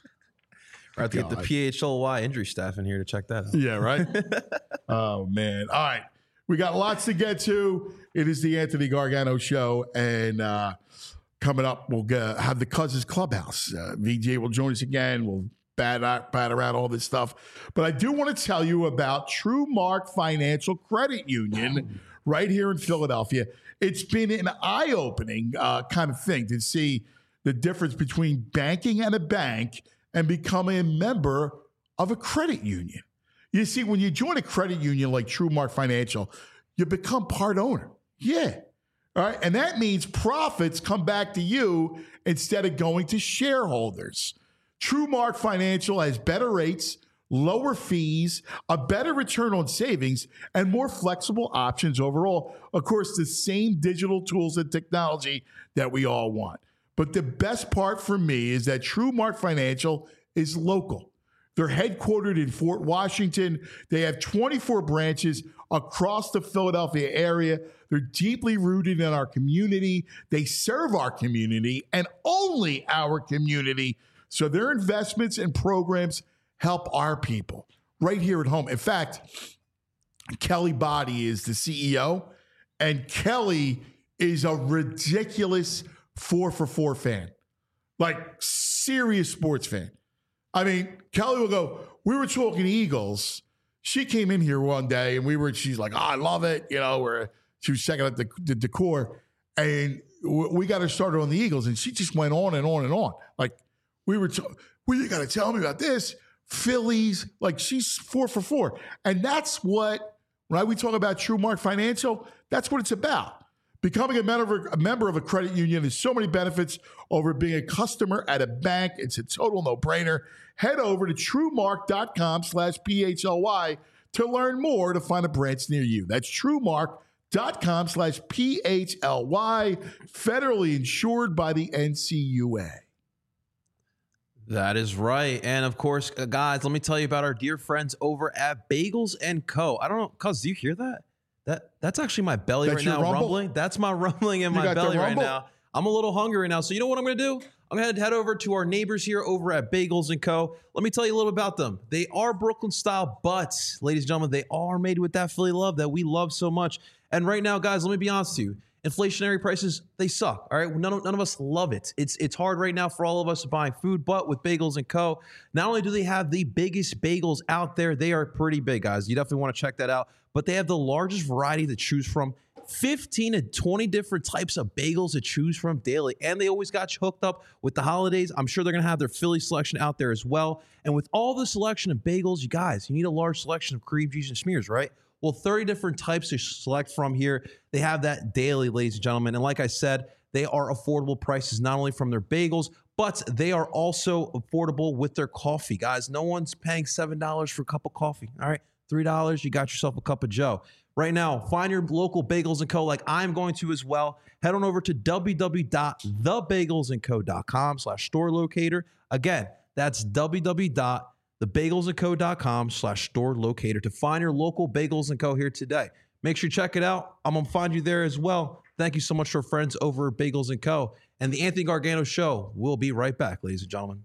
I have to get the PHLY injury staff in here to check that out. Yeah, right? Oh, man. All right. We got lots to get to. It is the Anthony Gargano Show. And coming up, we'll have the Cousins Clubhouse. VJ will join us again. We'll bat around all this stuff. But I do want to tell you about TrueMark Financial Credit Union right here in Philadelphia. It's been an eye-opening kind of thing to see the difference between banking and a bank and becoming a member of a credit union. You see, when you join a credit union like TrueMark Financial, you become part owner. Yeah. All right. And that means profits come back to you instead of going to shareholders. TrueMark Financial has better rates, lower fees, a better return on savings, and more flexible options overall. Of course, the same digital tools and technology that we all want. But the best part for me is that TrueMark Financial is local. They're headquartered in Fort Washington. They have 24 branches across the Philadelphia area. They're deeply rooted in our community. They serve our community and only our community. So their investments and programs help our people right here at home. In fact, Kelly Body is the CEO, and Kelly is a ridiculous 4for4 fan, like serious sports fan. I mean, Kelly will go, we were talking Eagles. She came in here one day and she's like, oh, I love it. You know, she was checking out the decor, and we got her started on the Eagles, and she just went on and on and on. Like, you got to tell me about this. Phillies, like she's 4for4. And that's what, when we talk about TrueMark Financial, that's what it's about. Becoming a member of a credit union has so many benefits over being a customer at a bank. It's a total no-brainer. Head over to TrueMark.com/PHLY to learn more to find a branch near you. That's TrueMark.com/PHLY, federally insured by the NCUA. That is right. And of course, guys, let me tell you about our dear friends over at Bagels & Co. I don't know, Cuz, do you hear that? That's actually my belly right now rumbling. That's my rumbling in my belly right now. I'm a little hungry right now. So you know what I'm going to do? I'm going to head over to our neighbors here over at Bagels & Co. Let me tell you a little about them. They are Brooklyn style, but ladies and gentlemen, they are made with that Philly love that we love so much. And right now, guys, let me be honest with you. Inflationary prices, they suck. All right, none of us love it. It's hard right now for all of us buying food, but with Bagels & Co., not only do they have the biggest bagels out there, they are pretty big, guys. You definitely want to check that out. But they have the largest variety to choose from, 15 to 20 different types of bagels to choose from daily. And they always got you hooked up with the holidays. I'm sure they're going to have their Philly selection out there as well. And with all the selection of bagels, you guys, you need a large selection of cream cheese and smears, right? Well, 30 different types to select from here. They have that daily, ladies and gentlemen. And like I said, they are affordable prices, not only from their bagels, but they are also affordable with their coffee. Guys, no one's paying $7 for a cup of coffee. All right, $3, you got yourself a cup of Joe. Right now, find your local Bagels & Co. like I'm going to as well. Head on over to www.thebagelsandco.com/store locator. Again, that's www.thebagelsandco.com/store locator to find your local Bagels & Co. here today. Make sure you check it out. I'm going to find you there as well. Thank you so much to our friends over at Bagels & Co. And the Anthony Gargano Show will be right back, ladies and gentlemen.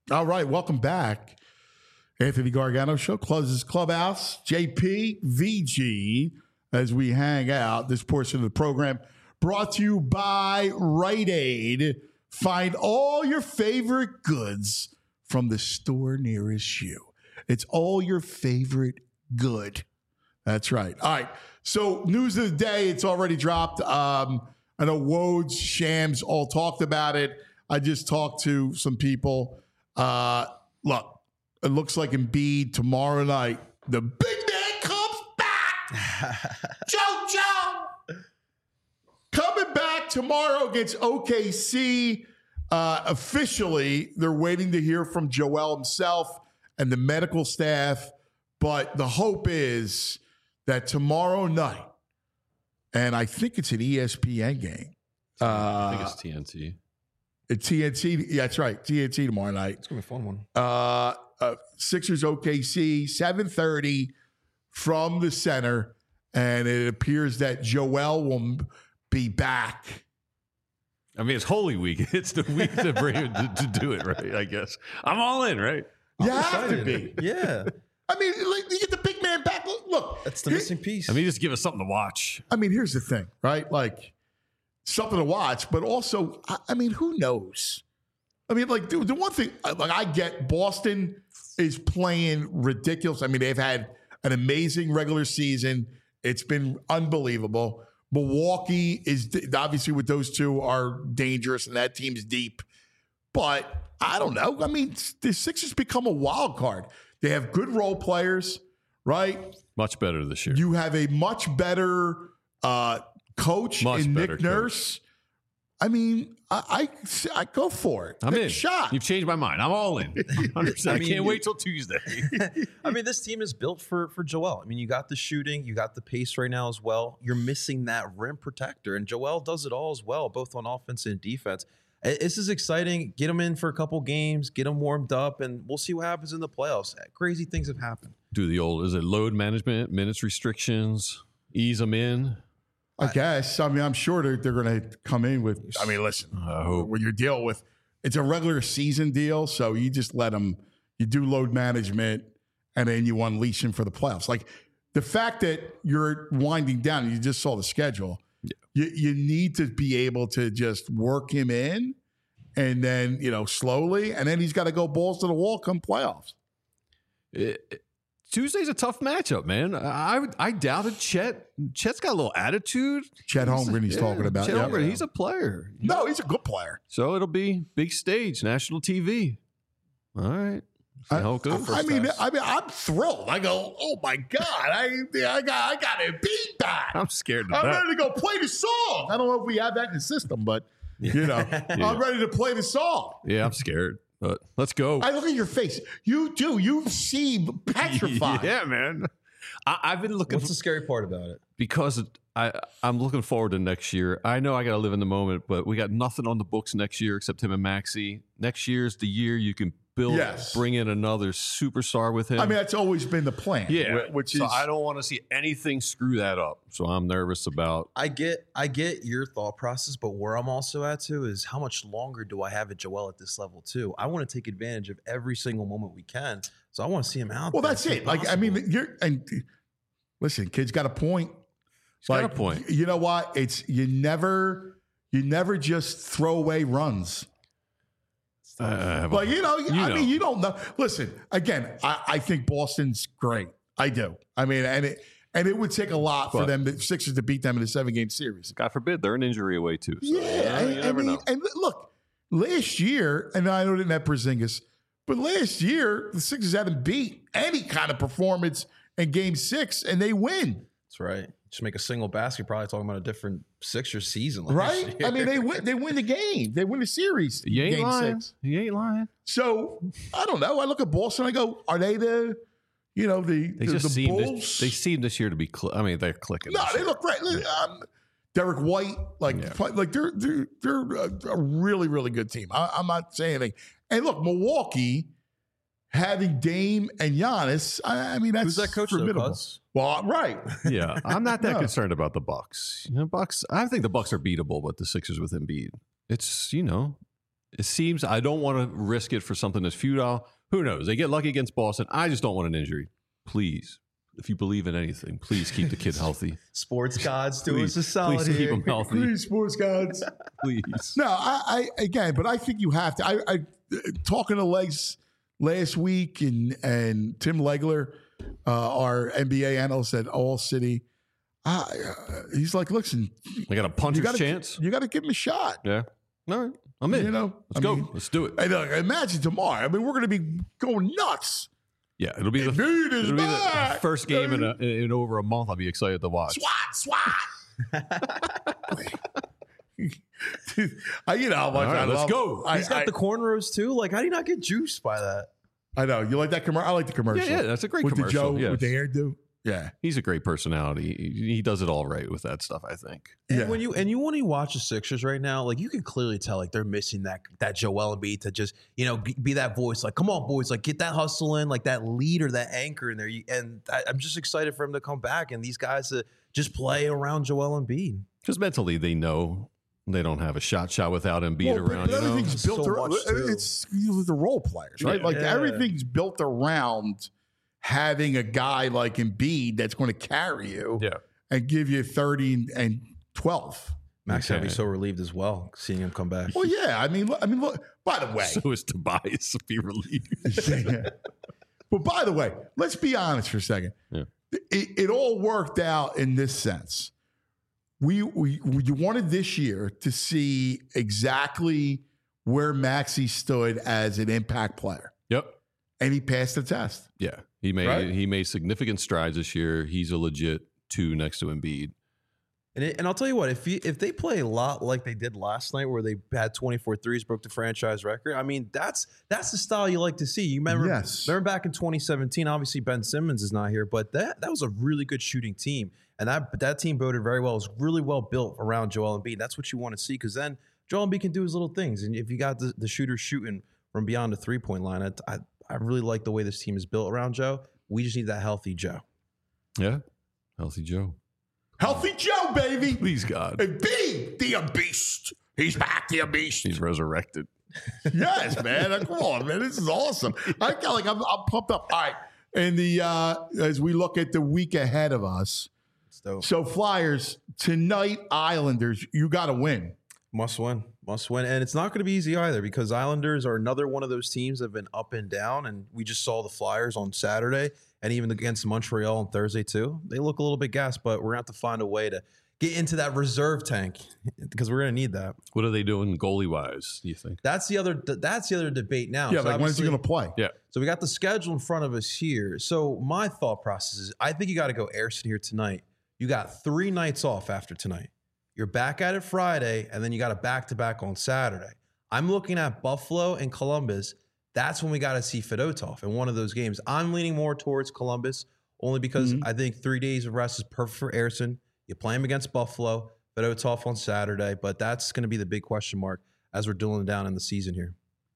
All right, welcome back. Anthony Gargano Show, closes Clubhouse, JP, VG, as we hang out. This portion of the program brought to you by Rite Aid. Find all your favorite goods from the store nearest you. It's all your favorite good. That's right. All right, so news of the day, it's already dropped. I know Woj, Shams all talked about it. I just talked to some people. Look, it looks like Embiid tomorrow night, the big man comes back. JoJo coming back tomorrow against OKC. Officially, they're waiting to hear from Joel himself and the medical staff. But the hope is that tomorrow night, and I think it's an ESPN game. I think it's TNT. TNT, yeah, that's right. TNT tomorrow night. It's going to be a fun one. Sixers OKC, 7:30 from the center. And it appears that Joel will be back. I mean, it's Holy Week. It's the week to bring him to do it, right? I guess. I'm all in, right? You have to be. Yeah. I mean, like, you get the big man back. Look. That's the missing piece. I mean, just give us something to watch. I mean, here's the thing, right? Like, something to watch, but also, I mean, who knows? I mean, like, the one thing, like, I get Boston is playing ridiculous. I mean, they've had an amazing regular season. It's been unbelievable. Milwaukee is obviously, with those two, are dangerous, and that team's deep. But I don't know. I mean, the Sixers become a wild card. They have good role players, right? Much better this year. You have a much better coach in Nick Nurse. I mean, I go for it. I'm Take in. a shot. You've changed my mind. I'm all in. 100%. I can't wait till Tuesday. I mean, this team is built for Joel. I mean, you got the shooting, you got the pace right now as well. You're missing that rim protector, and Joel does it all as well, both on offense and defense. This is exciting. Get him in for a couple games, get him warmed up, and we'll see what happens in the playoffs. Crazy things have happened. Do the old, is it load management, minutes restrictions, ease them in? I guess. I mean, I'm sure they're going to come in with, I mean, listen, when you're dealing with, it's a regular season deal, so you just let them, you do load management, and then you unleash them for the playoffs. Like, the fact that you're winding down, you just saw the schedule, you need to be able to just work him in, and then, slowly, and then he's got to go balls to the wall come playoffs. Tuesday's a tough matchup, man. I doubted Chet. Chet's got a little attitude. Chet Holmgren he's talking about. Chet Holmgren, he's a player. No, he's a good player. So it'll be big stage, national TV. All right. See how it goes. I mean, I'm thrilled. I go, oh my God, I got a beat back. I'm scared of I'm that. ready to go play the song. I don't know if we have that in the system, but I'm ready to play the song. Yeah, I'm scared. But let's go. I look at your face. You do. You seem petrified. Yeah, man. I've been looking. What's the scary part about it? Because I'm looking forward to next year. I know I got to live in the moment, but we got nothing on the books next year except him and Maxey. Next year's the year you can build, bring in another superstar with him. I mean, that's always been the plan. Yeah, which so is. I don't want to see anything screw that up. So I'm nervous about. I get your thought process, but where I'm also at too is how much longer do I have at Joel at this level too? I want to take advantage of every single moment we can. So I want to see him out. Well, that's it. Like, I mean, listen, kid's got a point. He's got a point. You know what? It's you never just throw away runs. But I mean, you don't know. Listen, again, I think Boston's great. I do. I mean, and it would take a lot for them, the Sixers, to beat them in a 7-game series. God forbid, they're an injury away too. So Yeah, you never know. And look, last year, and I know they didn't have Porzingis, but last year the Sixers hadn't beat any kind of performance in Game 6, and they win. That's right. Just make a single basket, probably talking about a different Sixers season. Right? I mean, they win the game. They win the series. You ain't Game lying. 6. You ain't lying. So, I don't know. I look at Boston, I go, are they the Bulls? They seem this year to be. They're clicking. No, they look great. Derek White, they're a really, really good team. I'm not saying anything. And look, Milwaukee having Dame and Giannis, I mean, that's who's that coach? formidable. Well, right. Yeah, I'm not that concerned about the Bucks. Bucks. I think the Bucks are beatable, but the Sixers with Embiid, it's It seems I don't want to risk it for something that's futile. Who knows? They get lucky against Boston. I just don't want an injury. Please, if you believe in anything, please keep the kid healthy. Sports gods, do Please, us a solid please keep here. him healthy. Please, sports gods. Please. No, I but I think you have to. I talking to Legs last week and Tim Legler, our NBA analyst at All City. He's like, listen, I got a puncher's chance. You got to give him a shot. Yeah. All right. I'm in. You know, let's go. Let's do it. And imagine tomorrow. I mean, we're going to be going nuts. Yeah, it'll be the first game in over a month. I'll be excited to watch. Swat. You know how much I love. Let's go. He's got the cornrows too. Like, how do you not get juiced by that? I know. You like that commercial? I like the commercial. Yeah, that's a great with commercial. The Joe, with the hairdo. Yeah. He's a great personality. He does it all right with that stuff, I think. And when you watch the Sixers right now, like you can clearly tell like they're missing that Joel Embiid to just, be that voice, like, come on, boys, like get that hustle in, like that leader, that anchor in there. And I'm just excited for him to come back and these guys to just play around Joel Embiid. Because mentally they know they don't have a shot without Embiid around. But everything's built around it's the role players, right? Everything's built around having a guy like Embiid that's going to carry you and give you 30 and 12. Max would be so relieved as well seeing him come back. Well, yeah. I mean, look, by the way. So is Tobias to be relieved. But by the way, let's be honest for a second. Yeah. It all worked out in this sense. We wanted this year to see exactly where Maxey stood as an impact player. Yep. And he passed the test. Yeah. He made significant strides this year. He's a legit 2 next to Embiid. And I'll tell you what, if they play a lot like they did last night where they had 24 threes, broke the franchise record, I mean, that's the style you like to see. You remember back in 2017, obviously Ben Simmons is not here, but that was a really good shooting team. And that team voted very well. It was really well built around Joel Embiid. That's what you want to see because then Joel Embiid can do his little things. And if you got the shooters shooting from beyond the three-point line, I really like the way this team is built around Joe. We just need that healthy Joe. Yeah, healthy Joe. Healthy Joe, baby. Please, God. Embiid, the beast. He's back, the beast. He's resurrected. Yes, man. Come on, man. This is awesome. I'm pumped up. All right. And as we look at the week ahead of us, so Flyers, tonight, Islanders, you got to win. Must win. And it's not going to be easy either because Islanders are another one of those teams that have been up and down. And we just saw the Flyers on Saturday and even against Montreal on Thursday too. They look a little bit gassed, but we're going to have to find a way to get into that reserve tank because we're going to need that. What are they doing goalie-wise, do you think? That's the other debate now. Yeah, so like when's he going to play? Yeah. So we got the schedule in front of us here. So my thought process is I think you got to go Airson here tonight. You got 3 nights off after tonight. You're back at it Friday, and then you got a back-to-back on Saturday. I'm looking at Buffalo and Columbus. That's when we got to see Fedotov in one of those games. I'm leaning more towards Columbus only because I think 3 days of rest is perfect for Airson. You play him against Buffalo, Fedotov on Saturday, but that's going to be the big question mark as we're drilling down in the season here.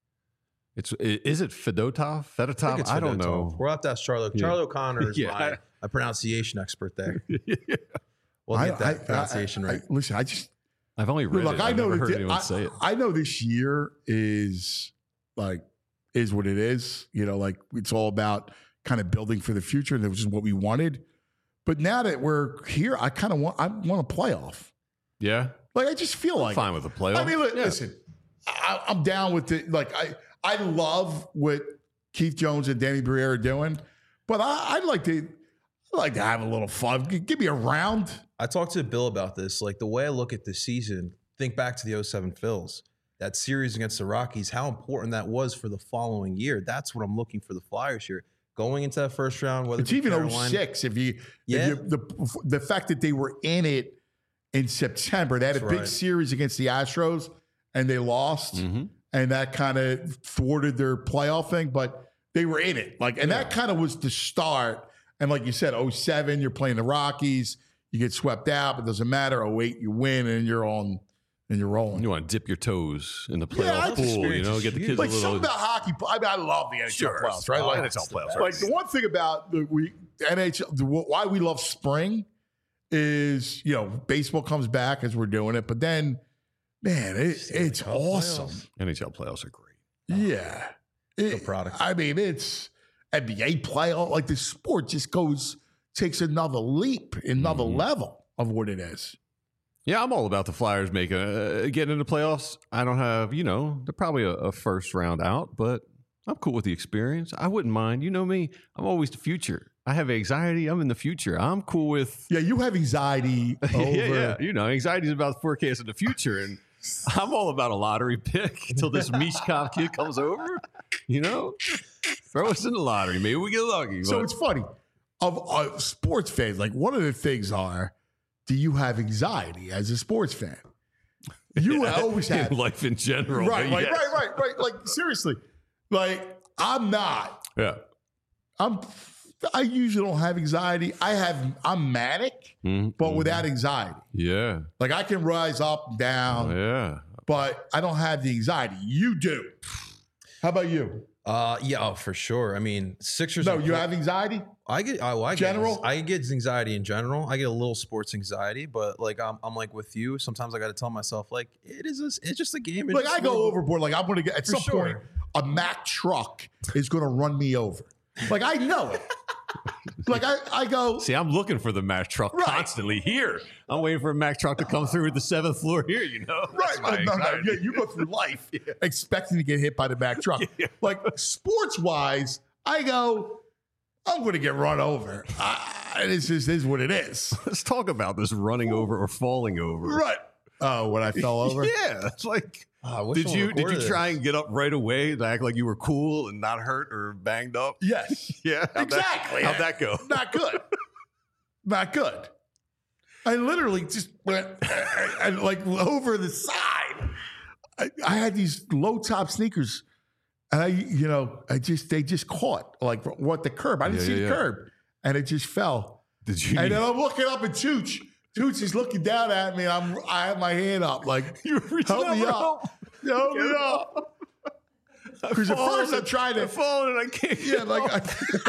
Is it Fedotov? Fedotov? I don't know. We'll have to ask Charlie. Yeah. Charlie O'Connor is my pronunciation expert there. We'll get that pronunciation right. Listen, I've only read it. I've never heard anyone say it. I know this year is what it is. Like it's all about kind of building for the future, and that was just what we wanted. But now that we're here, I want a playoff. Yeah. Like I just feel I'm fine with a playoff. I mean, listen, I'm down with it. Like I love what Keith Jones and Danny Briere are doing, but I'd like to have a little fun. Give me a round. I talked to Bill about this. Like the way I look at this season, think back to the 07 Phils, that series against the Rockies, how important that was for the following year. That's what I'm looking for the Flyers here. Going into that first round, whether it's even 06. The fact that they were in it in September, they had a big series against the Astros and they lost, and that kind of thwarted their playoff thing. But they were in it, that kind of was the start. And like you said, 07, you're playing the Rockies, you get swept out, but it doesn't matter. 08, you win, and you're rolling. You want to dip your toes in the playoff pool, get the kids like a little. Something about hockey. I mean, I love the NHL playoffs, right? Like NHL playoffs. Like the one thing about the NHL, why we love spring is baseball comes back as we're doing it, but then Man, it's awesome. NHL playoffs are great. Yeah. Good product. I mean, it's NBA playoff. Like the sport just takes another leap, another level of what it is. Yeah, I'm all about the Flyers getting into playoffs. I don't have, they're probably a first round out, but I'm cool with the experience. I wouldn't mind. You know me, I'm always the future. I have anxiety. I'm in the future. I'm cool with. Yeah, you have anxiety over. Yeah. Anxiety is about forecasting the future. And I'm all about a lottery pick until this Mishkov kid comes over. Throw us in the lottery. Maybe we get lucky. So it's funny. Of sports fans, like one of the things do you have anxiety as a sports fan? You always have. In life in general. Right. Like, seriously. Like, I'm not. Yeah. I usually don't have anxiety. I'm manic, but without anxiety. Yeah. Like I can rise up and down. Yeah. But I don't have the anxiety. You do. How about you? For sure. I mean, Sixers. No, you have anxiety? I get anxiety in general. I get a little sports anxiety, but like I'm like with you. Sometimes I got to tell myself like it's just a game. Like I go overboard. Like I'm going to get at some point a Mack truck is going to run me over. Like I know it. Like I go. See, I'm looking for the Mack truck constantly here. I'm waiting for a Mack truck to come through the 7th floor here. Right? No. Yeah, you go through life expecting to get hit by the Mack truck. Yeah. Like sports wise, I go. I'm going to get run over. This is what it is. Let's talk about this running over or falling over. Right. Oh, when I fell over. Yeah, it's like. Did you try and get up right away to act like you were cool and not hurt or banged up? Yes. Yeah. Exactly. How'd that go? Not good. Not good. I literally just went like over the side. I had these low top sneakers, and they just caught like what the curb. I didn't see the curb, and it just fell. Did you? And then I'm looking up at Tooch. Tooch is looking down at me, and I have my hand up, like, help me up. Help me up. Because at first I'm trying to. I'm falling and I can't. Yeah, like.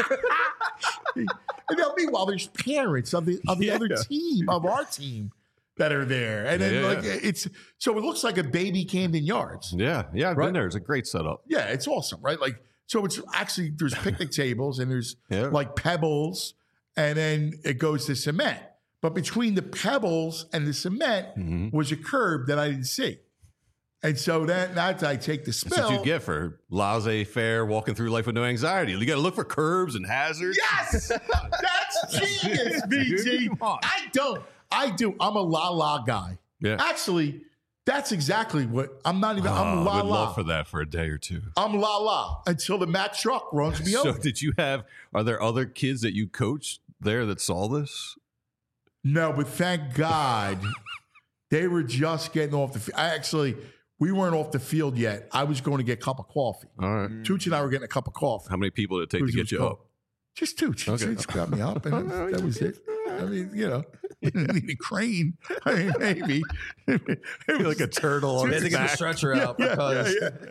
And now, meanwhile, there's parents of the other team, of our team, that are there. And then, so it looks like a baby Camden Yards. Yeah, I've been there. It's a great setup. Yeah, it's awesome, right? Like, so it's actually, there's picnic tables, and there's like pebbles, and then it goes to cement. But between the pebbles and the cement was a curb that I didn't see. And so that's I take the spill. That's what you get for laissez-faire, walking through life with no anxiety. You got to look for curbs and hazards. Yes! That's genius, BG. I do. I'm a la-la guy. Yeah. Actually, that's exactly what, I'm not even, I'm la-la. I would love for that for a day or two. I'm la-la until the Mack truck runs me over. So are there other kids that you coached there that saw this? No, but thank God they were just getting off the field. We weren't off the field yet. I was going to get a cup of coffee. All right. Tooch and I were getting a cup of coffee. How many people did it take to get you up? Just Tooch. Okay. Just got me up, and that was it. I mean, need a crane. I mean, maybe. It was like a turtle on his back. They get the stretcher out because.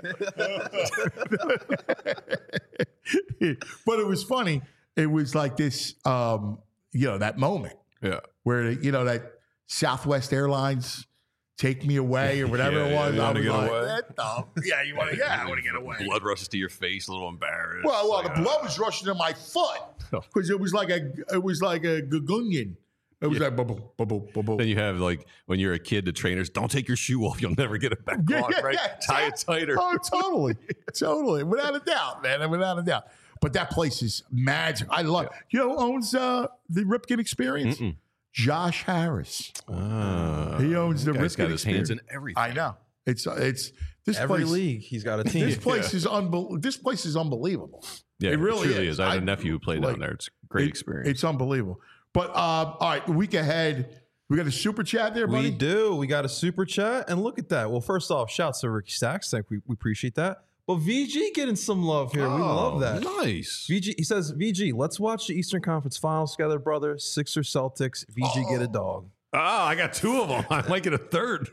But it was funny. It was like this, that moment. Yeah. Where, that Southwest Airlines take me away or whatever it was. I was like, away. I want to get away. Blood rushes to your face, a little embarrassed. Well, the blood was rushing to my foot because it was like a gagunion. It was like bubble, bubble, bubble. Then you have like when you're a kid, the trainers don't take your shoe off; you'll never get it back on. Right? Tie it tighter. Oh, totally, without a doubt, man, without a doubt. But that place is magic. I love. You know who owns the Ripken Experience? Josh Harris. He owns the Ripken He's got his Experience. Hands in everything. I know. It's this every place, league. He's got a team. This place is This place is unbelievable. Yeah, it really truly is. I have a nephew who played down there. It's a great experience. It's unbelievable. But all right, the week ahead, we got a super chat there, buddy. We do. We got a super chat, and look at that. Well, first off, shouts to Ricky Stacks. We appreciate that. But VG getting some love here. We love that. Nice. VG, he says, VG, let's watch the Eastern Conference Finals together, brother. Sixers, Celtics. VG, get a dog. Oh, I got two of them. I might get a third.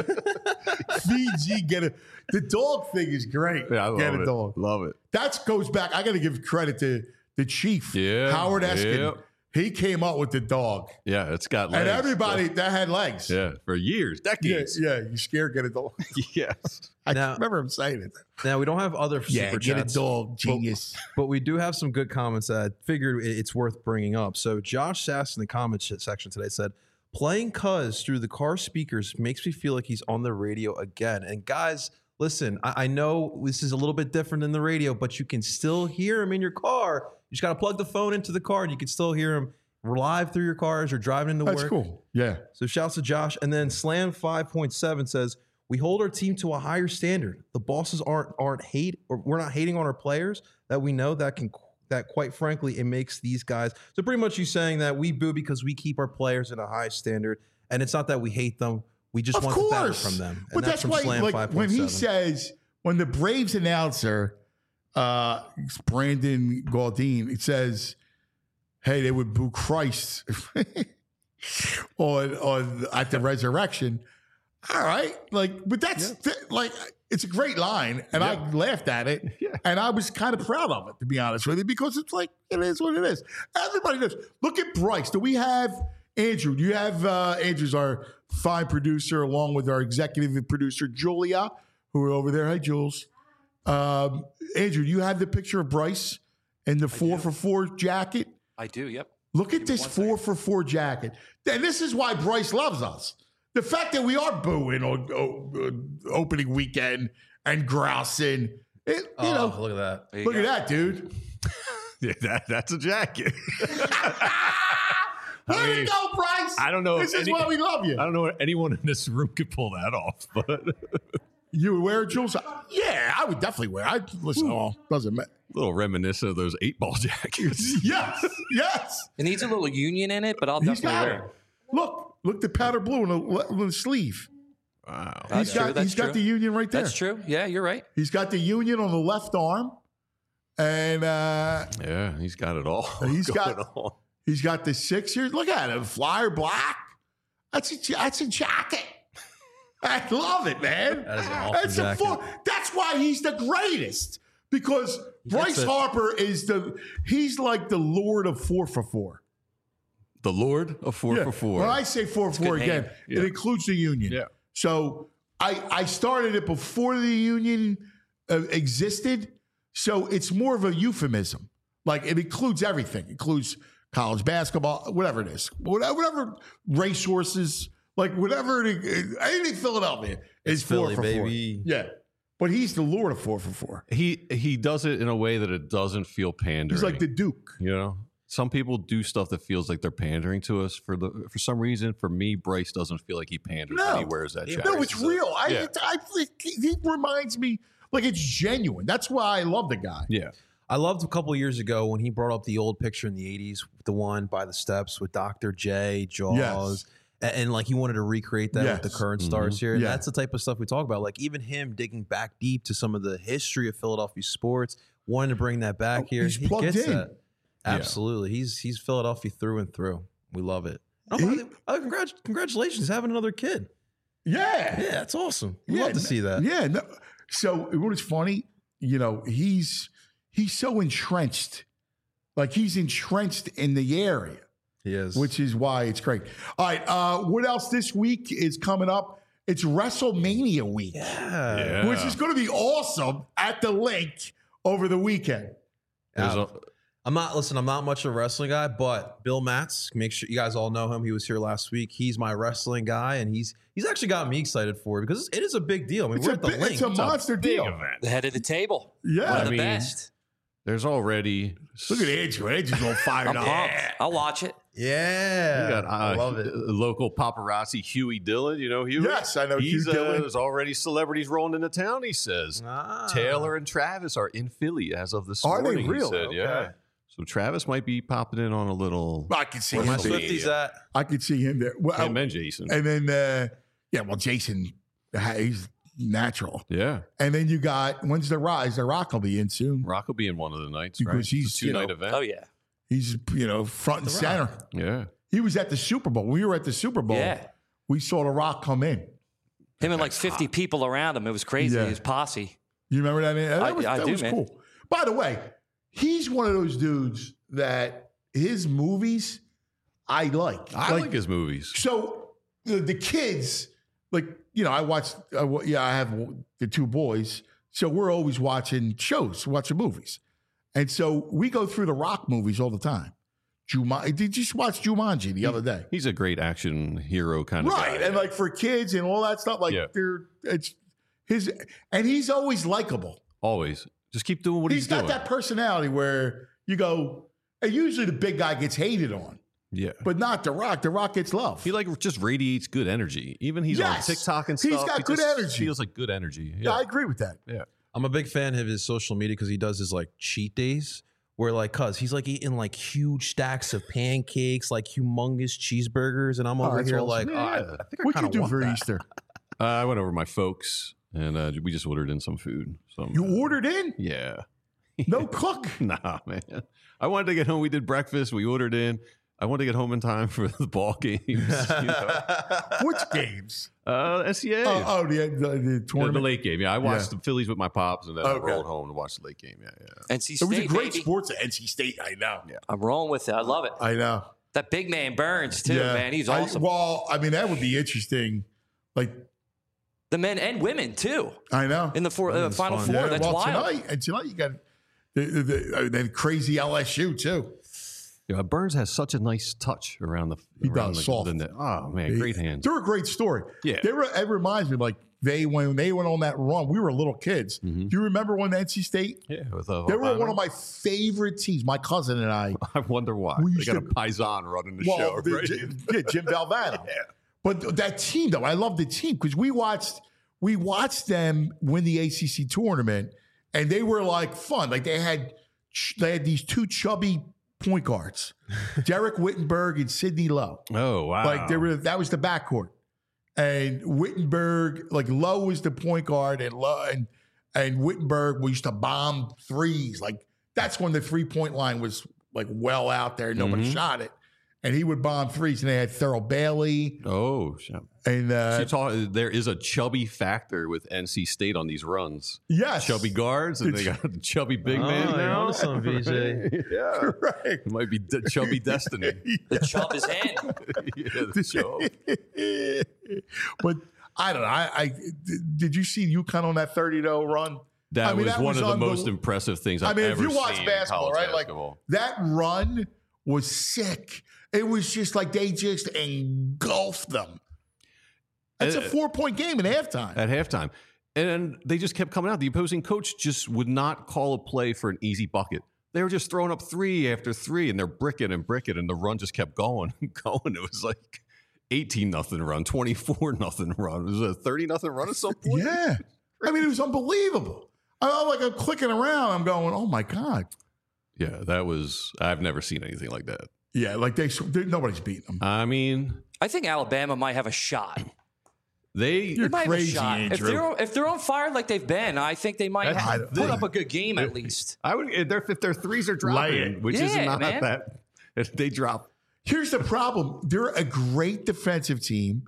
VG, get a... The dog thing is great. Yeah, I love get a it. dog. Love it. That goes back. I got to give credit to the chief, Howard Eskin. Yep. He came up with the dog. Yeah, it's got legs. And everybody that had legs. Yeah, for years, decades. Yeah, you scared get a dog. Yes. I Now- remember him saying it. Now we don't have other Yeah, super get chats, a dog, genius. but we do have some good comments that I figured it's worth bringing up. So Josh Sass in the comments section today said, "Playing Cuz through the car speakers makes me feel like he's on the radio again." And guys, listen, I know this is a little bit different than the radio, but you can still hear him in your car. You just got to plug the phone into the car, and you can still hear him live through your car as you're driving into That's work. cool. Yeah. So shouts to Josh. And then Slam 5.7 says, "We hold our team to a higher standard. The bosses aren't hate, or we're not hating on our players that we know that quite frankly, it makes these guys." So pretty much you saying that we boo because we keep our players at a high standard. And it's not that we hate them. We just want the better from them. And But that's from why, Slam like, 5.7. when he says, when the Braves announcer, Brandon Gaudine, it says, hey, they would boo Christ on at the resurrection. All right. Like, but that's like, it's a great line. And I laughed at it. Yeah. And I was kind of proud of it, to be honest with you, because it's like, it is what it is. Everybody knows. Look at Bryce. Do we have Andrew? Do you have Andrew's our fine producer, along with our executive producer, Julia, who are over there. Hi, Jules. Andrew, do you have the picture of Bryce in the 4-for-4 jacket? I do, yep. Look at this 4-for-4 jacket. And this is why Bryce loves us. The fact that we are booing on opening weekend and grousing. You know, look at that. Look at that, dude. Yeah, that's a jacket. Where you go, Bryce? I don't know. This is why we love you. I don't know if anyone in this room could pull that off, but You would wear it, Jules? Yeah, I would definitely wear it. Listen, doesn't matter. a little reminiscent of those 8-ball jackets. Yes. It needs a little union in it, but I'll He's definitely got wear it. it. Look, the powder blue on the sleeve. Wow. He's got the union right there. That's true. Yeah, you're right. He's got the union on the left arm, and Yeah, he's got it all. he's going got on. he's got the Sixers. Look at him, flyer black. That's a jacket. I love it, man. That is an awesome jacket. That's why he's the greatest, because Bryce Harper he's like the Lord of 4-for-4. The Lord of 4-for-4. When I say 4-for-4 again, it includes the union. Yeah. So I started it before the union existed. So it's more of a euphemism. Like, it includes everything. It includes college basketball, whatever it is. Whatever racehorses, like whatever, anything Philadelphia is Philly, 4-for-4. baby. Yeah. But he's the Lord of 4-for-4. He does it in a way that it doesn't feel pandering. He's like the Duke. You know? Some people do stuff that feels like they're pandering to us for some reason. For me, Bryce doesn't feel like he panders when he wears that jacket. No, it's real. Yeah. He reminds me, like, it's genuine. That's why I love the guy. Yeah. I loved a couple of years ago when he brought up the old picture in the 80s, the one by the steps with Dr. J, Jaws. Yes. And like he wanted to recreate that with the current stars here. And Yeah. that's the type of stuff we talk about. Like even him digging back deep to some of the history of Philadelphia sports, wanting to bring that back here. He's He plugged gets in. that. Absolutely. He's Philadelphia through and through. We love it. Congratulations having another kid. Yeah. Yeah, that's awesome. We love to see that. Yeah. No. So what is funny, he's so entrenched. Like, he's entrenched in the area. He is. Which is why it's great. All right. What else this week is coming up? It's WrestleMania week. Yeah. Which is going to be awesome at the link over the weekend. I'm not much of a wrestling guy, but Bill Matz, make sure you guys all know him. He was here last week. He's my wrestling guy, and he's actually got me excited for it because it is a big deal. I mean, we're at the link. It's a monster deal. The head of the table. Yeah. One of the best. There's already. Look at Andrew. Andrew's all fired I'm up. pumped. I'll watch it. Yeah. You got, I love it. Local paparazzi Huey Dillon. You know Huey? Yes, I know He's, Hugh Dillon. There's already celebrities rolling into town, he says. Taylor and Travis are in Philly as of this Are they morning. real? He said, Okay. yeah. So Travis might be popping in on a little. I can see Where him my there. Swifties at? I could see him there. Well, Him and Jason. And then, Jason, he's natural. Yeah. And then you got, when's the Rise? The Rock will be in soon. Rock will be in one of the nights, Because right? he's, It's a 2-night event. Oh, yeah. He's, front and center. Yeah. He was at the Super Bowl. We were at the Super Bowl. Yeah. We saw The Rock come in. Him and like 50 people around him. It was crazy. Yeah. His posse. You remember that? I do, was man. cool. By the way, he's one of those dudes that his movies, I like. I like his movies. So the kids, like, you know, I have the two boys, so we're always watching movies. And so we go through the Rock movies all the time. Did you just watch Jumanji the other day? He's a great action hero kind of guy. Right. And like for kids and all that stuff, like he's always likable. Always. Just keep doing what he's doing. He's got that personality where you go, and usually the big guy gets hated on. Yeah. But not The Rock. The Rock gets love. He just radiates good energy. Even he's on TikTok and stuff. He's got good energy. Feels like good energy. Yeah, I agree with that. Yeah. I'm a big fan of his social media because he does his like cheat days where like, he's like eating like huge stacks of pancakes, like humongous cheeseburgers. And I'm over here awesome. like, I think I kind of want that. Easter? I went over to my folks and we just ordered in some food. You ordered in? Yeah. No cook? Nah, man. I wanted to get home. We did breakfast. We ordered in. I wanted to get home in time for the ball games. You know. Which games? SCA. The tournament? The late game. Yeah, I watched the Phillies with my pops, and then I rolled home to watch the late game. Yeah. NC State, it was a great baby. sports at NC State. I know. Yeah. I'm rolling with it. I love it. I know. That big man Burns, too, man. He's awesome. That would be interesting. Like, the men and women, too. I know. In the Final Four. That's wild. Tonight you got the crazy LSU, too. Yeah, Burns has such a nice touch around the. He does soft. Oh man, great hands. They're a great story. Yeah, it reminds me like when they went on that run. We were little kids. Mm-hmm. Do you remember when NC State? Yeah, they were one of my favorite teams. My cousin and I. I wonder why they got a Paisan running the show. Right? Jim Valvano. Yeah. But that team, though, I love the team because we watched them win the ACC tournament, and they were like fun. Like they had these two chubby point guards, Derek Wittenberg and Sidney Lowe. Oh wow! Like that was the backcourt, and Wittenberg, like Lowe was the point guard, and Wittenberg used to bomb threes. Like that's when the 3-point line was like well out there, nobody shot it, and he would bomb threes. And they had Thurl Bailey. Oh, and there is a chubby factor with NC State on these runs. Yes, chubby guards, and they got a chubby big man now. Some VJ. Yeah, right. It might be chubby destiny. The chub is in. Yeah, the chub. But I don't know. Did you see UConn on that 30-0 run? That was one of the most impressive things I've ever seen. If you watch basketball, right? Basketball. Like that run was sick. It was just like they just engulfed them. It's a 4-point game at halftime. At halftime. And they just kept coming out. The opposing coach just would not call a play for an easy bucket. They were just throwing up 3 after 3, and they're bricking, and the run just kept going and going. It was like 18-0 run, 24-0 run. It was a 30-0 run at some point. Yeah. I mean, it was unbelievable. I'm clicking around. I'm going, oh, my God. Yeah, I've never seen anything like that. Yeah, like nobody's beating them. I mean, I think Alabama might have a shot. They might crazy, have a shot. If they're on fire like they've been, I think they might put up a good game at least. I would if their threes are dropping, which is not that. If they drop. Here's the problem: they're a great defensive team,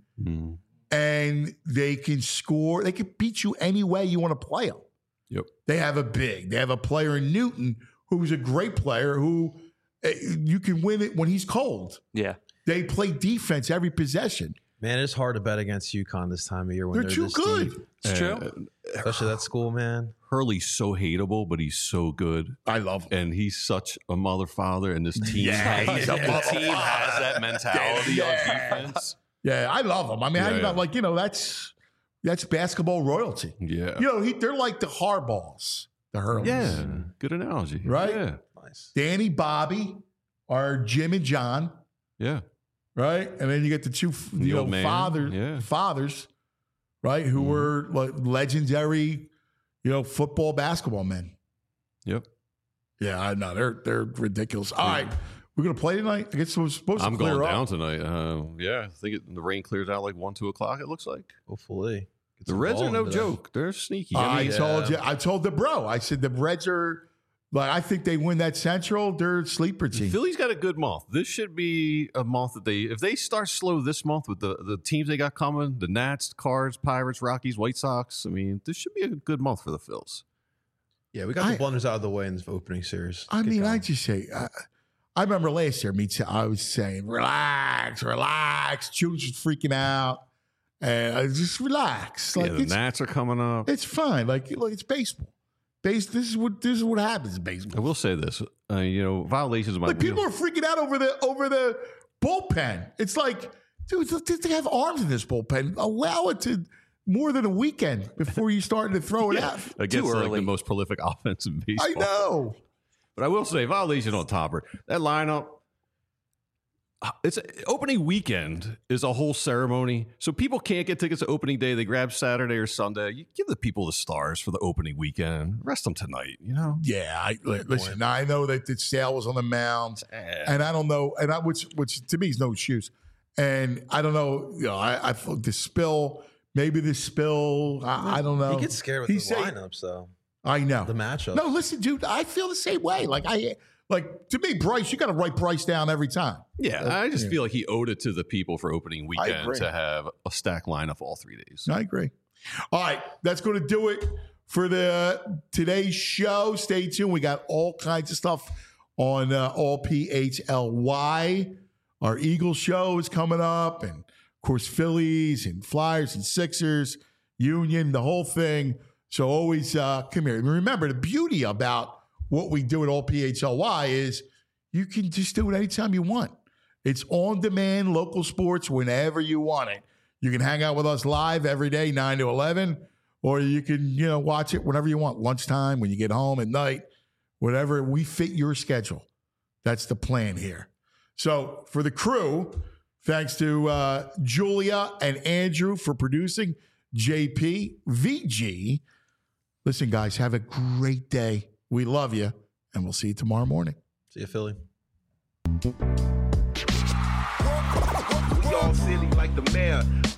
and they can score. They can beat you any way you want to play them. Yep. They have a player in Newton who's a great player who you can win it when he's cold. Yeah. They play defense every possession. Man, it's hard to bet against UConn this time of year when they're too good. Deep. It's true. Especially that school, man. Hurley's so hateable, but he's so good. I love him. And he's such a mother father, and this team, has that mentality on defense. Yeah, I love him. I mean, that's basketball royalty. Yeah. They're like the Harbaughs, the Hurleys. Yeah, good analogy. Right? Yeah. Nice. Danny, Bobby are Jim and John. Yeah. Right? And then you get the two fathers, right, who were like legendary, football, basketball men. Yep. Yeah, I know. They're ridiculous. All right. We're going to play tonight? I guess we're supposed to clear I'm going up. down tonight. Yeah, I think the rain clears out like 1, 2 o'clock, it looks like. Hopefully. The Reds are no joke. They're sneaky. I told the bro. I said the Reds are... Like, I think they win that Central. They're a sleeper team. Philly's got a good month. This should be a month that if they start slow this month with the teams they got coming, the Nats, Cards, Pirates, Rockies, White Sox, I mean, this should be a good month for the Phils. Yeah, we got the blunders out of the way in this opening series. I just say, I remember last year, I was saying, relax. Julius was freaking out. And I just relax. Like, the Nats are coming up. It's fine. Like it's baseball. This is what happens in baseball. I will say this. Violations might be. People are freaking out over the bullpen. It's like, dude, they have arms in this bullpen. Allow it to more than a weekend before you start to throw it out. Against like the most prolific offense in baseball. I know. But I will say, violation on Topper. That lineup, it's opening weekend is a whole ceremony. So people can't get tickets to opening day. They grab Saturday or Sunday. You give the people the stars for the opening weekend. Rest them tonight, Yeah, listen, I know that Sale was on the mound, and I don't know, which to me is no excuse. And I don't know, I thought the spill, maybe the spill, I don't know. He gets scared with the lineups, though. I know. The matchup. No, listen, dude, I feel the same way. Like to me, Bryce, you got to write Bryce down every time. Yeah, I just feel like he owed it to the people for opening weekend to have a stacked lineup all 3 days. I agree. All right, that's going to do it for today's show. Stay tuned. We got all kinds of stuff on all PHLY. Our Eagles show is coming up, and of course Phillies and Flyers and Sixers, Union, the whole thing. So always come here. And remember, the beauty about what we do at all PHLY is you can just do it anytime you want. It's on demand, local sports, whenever you want it. You can hang out with us live every day, 9 to 11, or you can, watch it whenever you want, lunchtime, when you get home at night, whatever. We fit your schedule. That's the plan here. So for the crew, thanks to Julia and Andrew for producing, JP, VG. Listen, guys, have a great day. We love you, and we'll see you tomorrow morning. See you, Philly. We all silly like the mayor.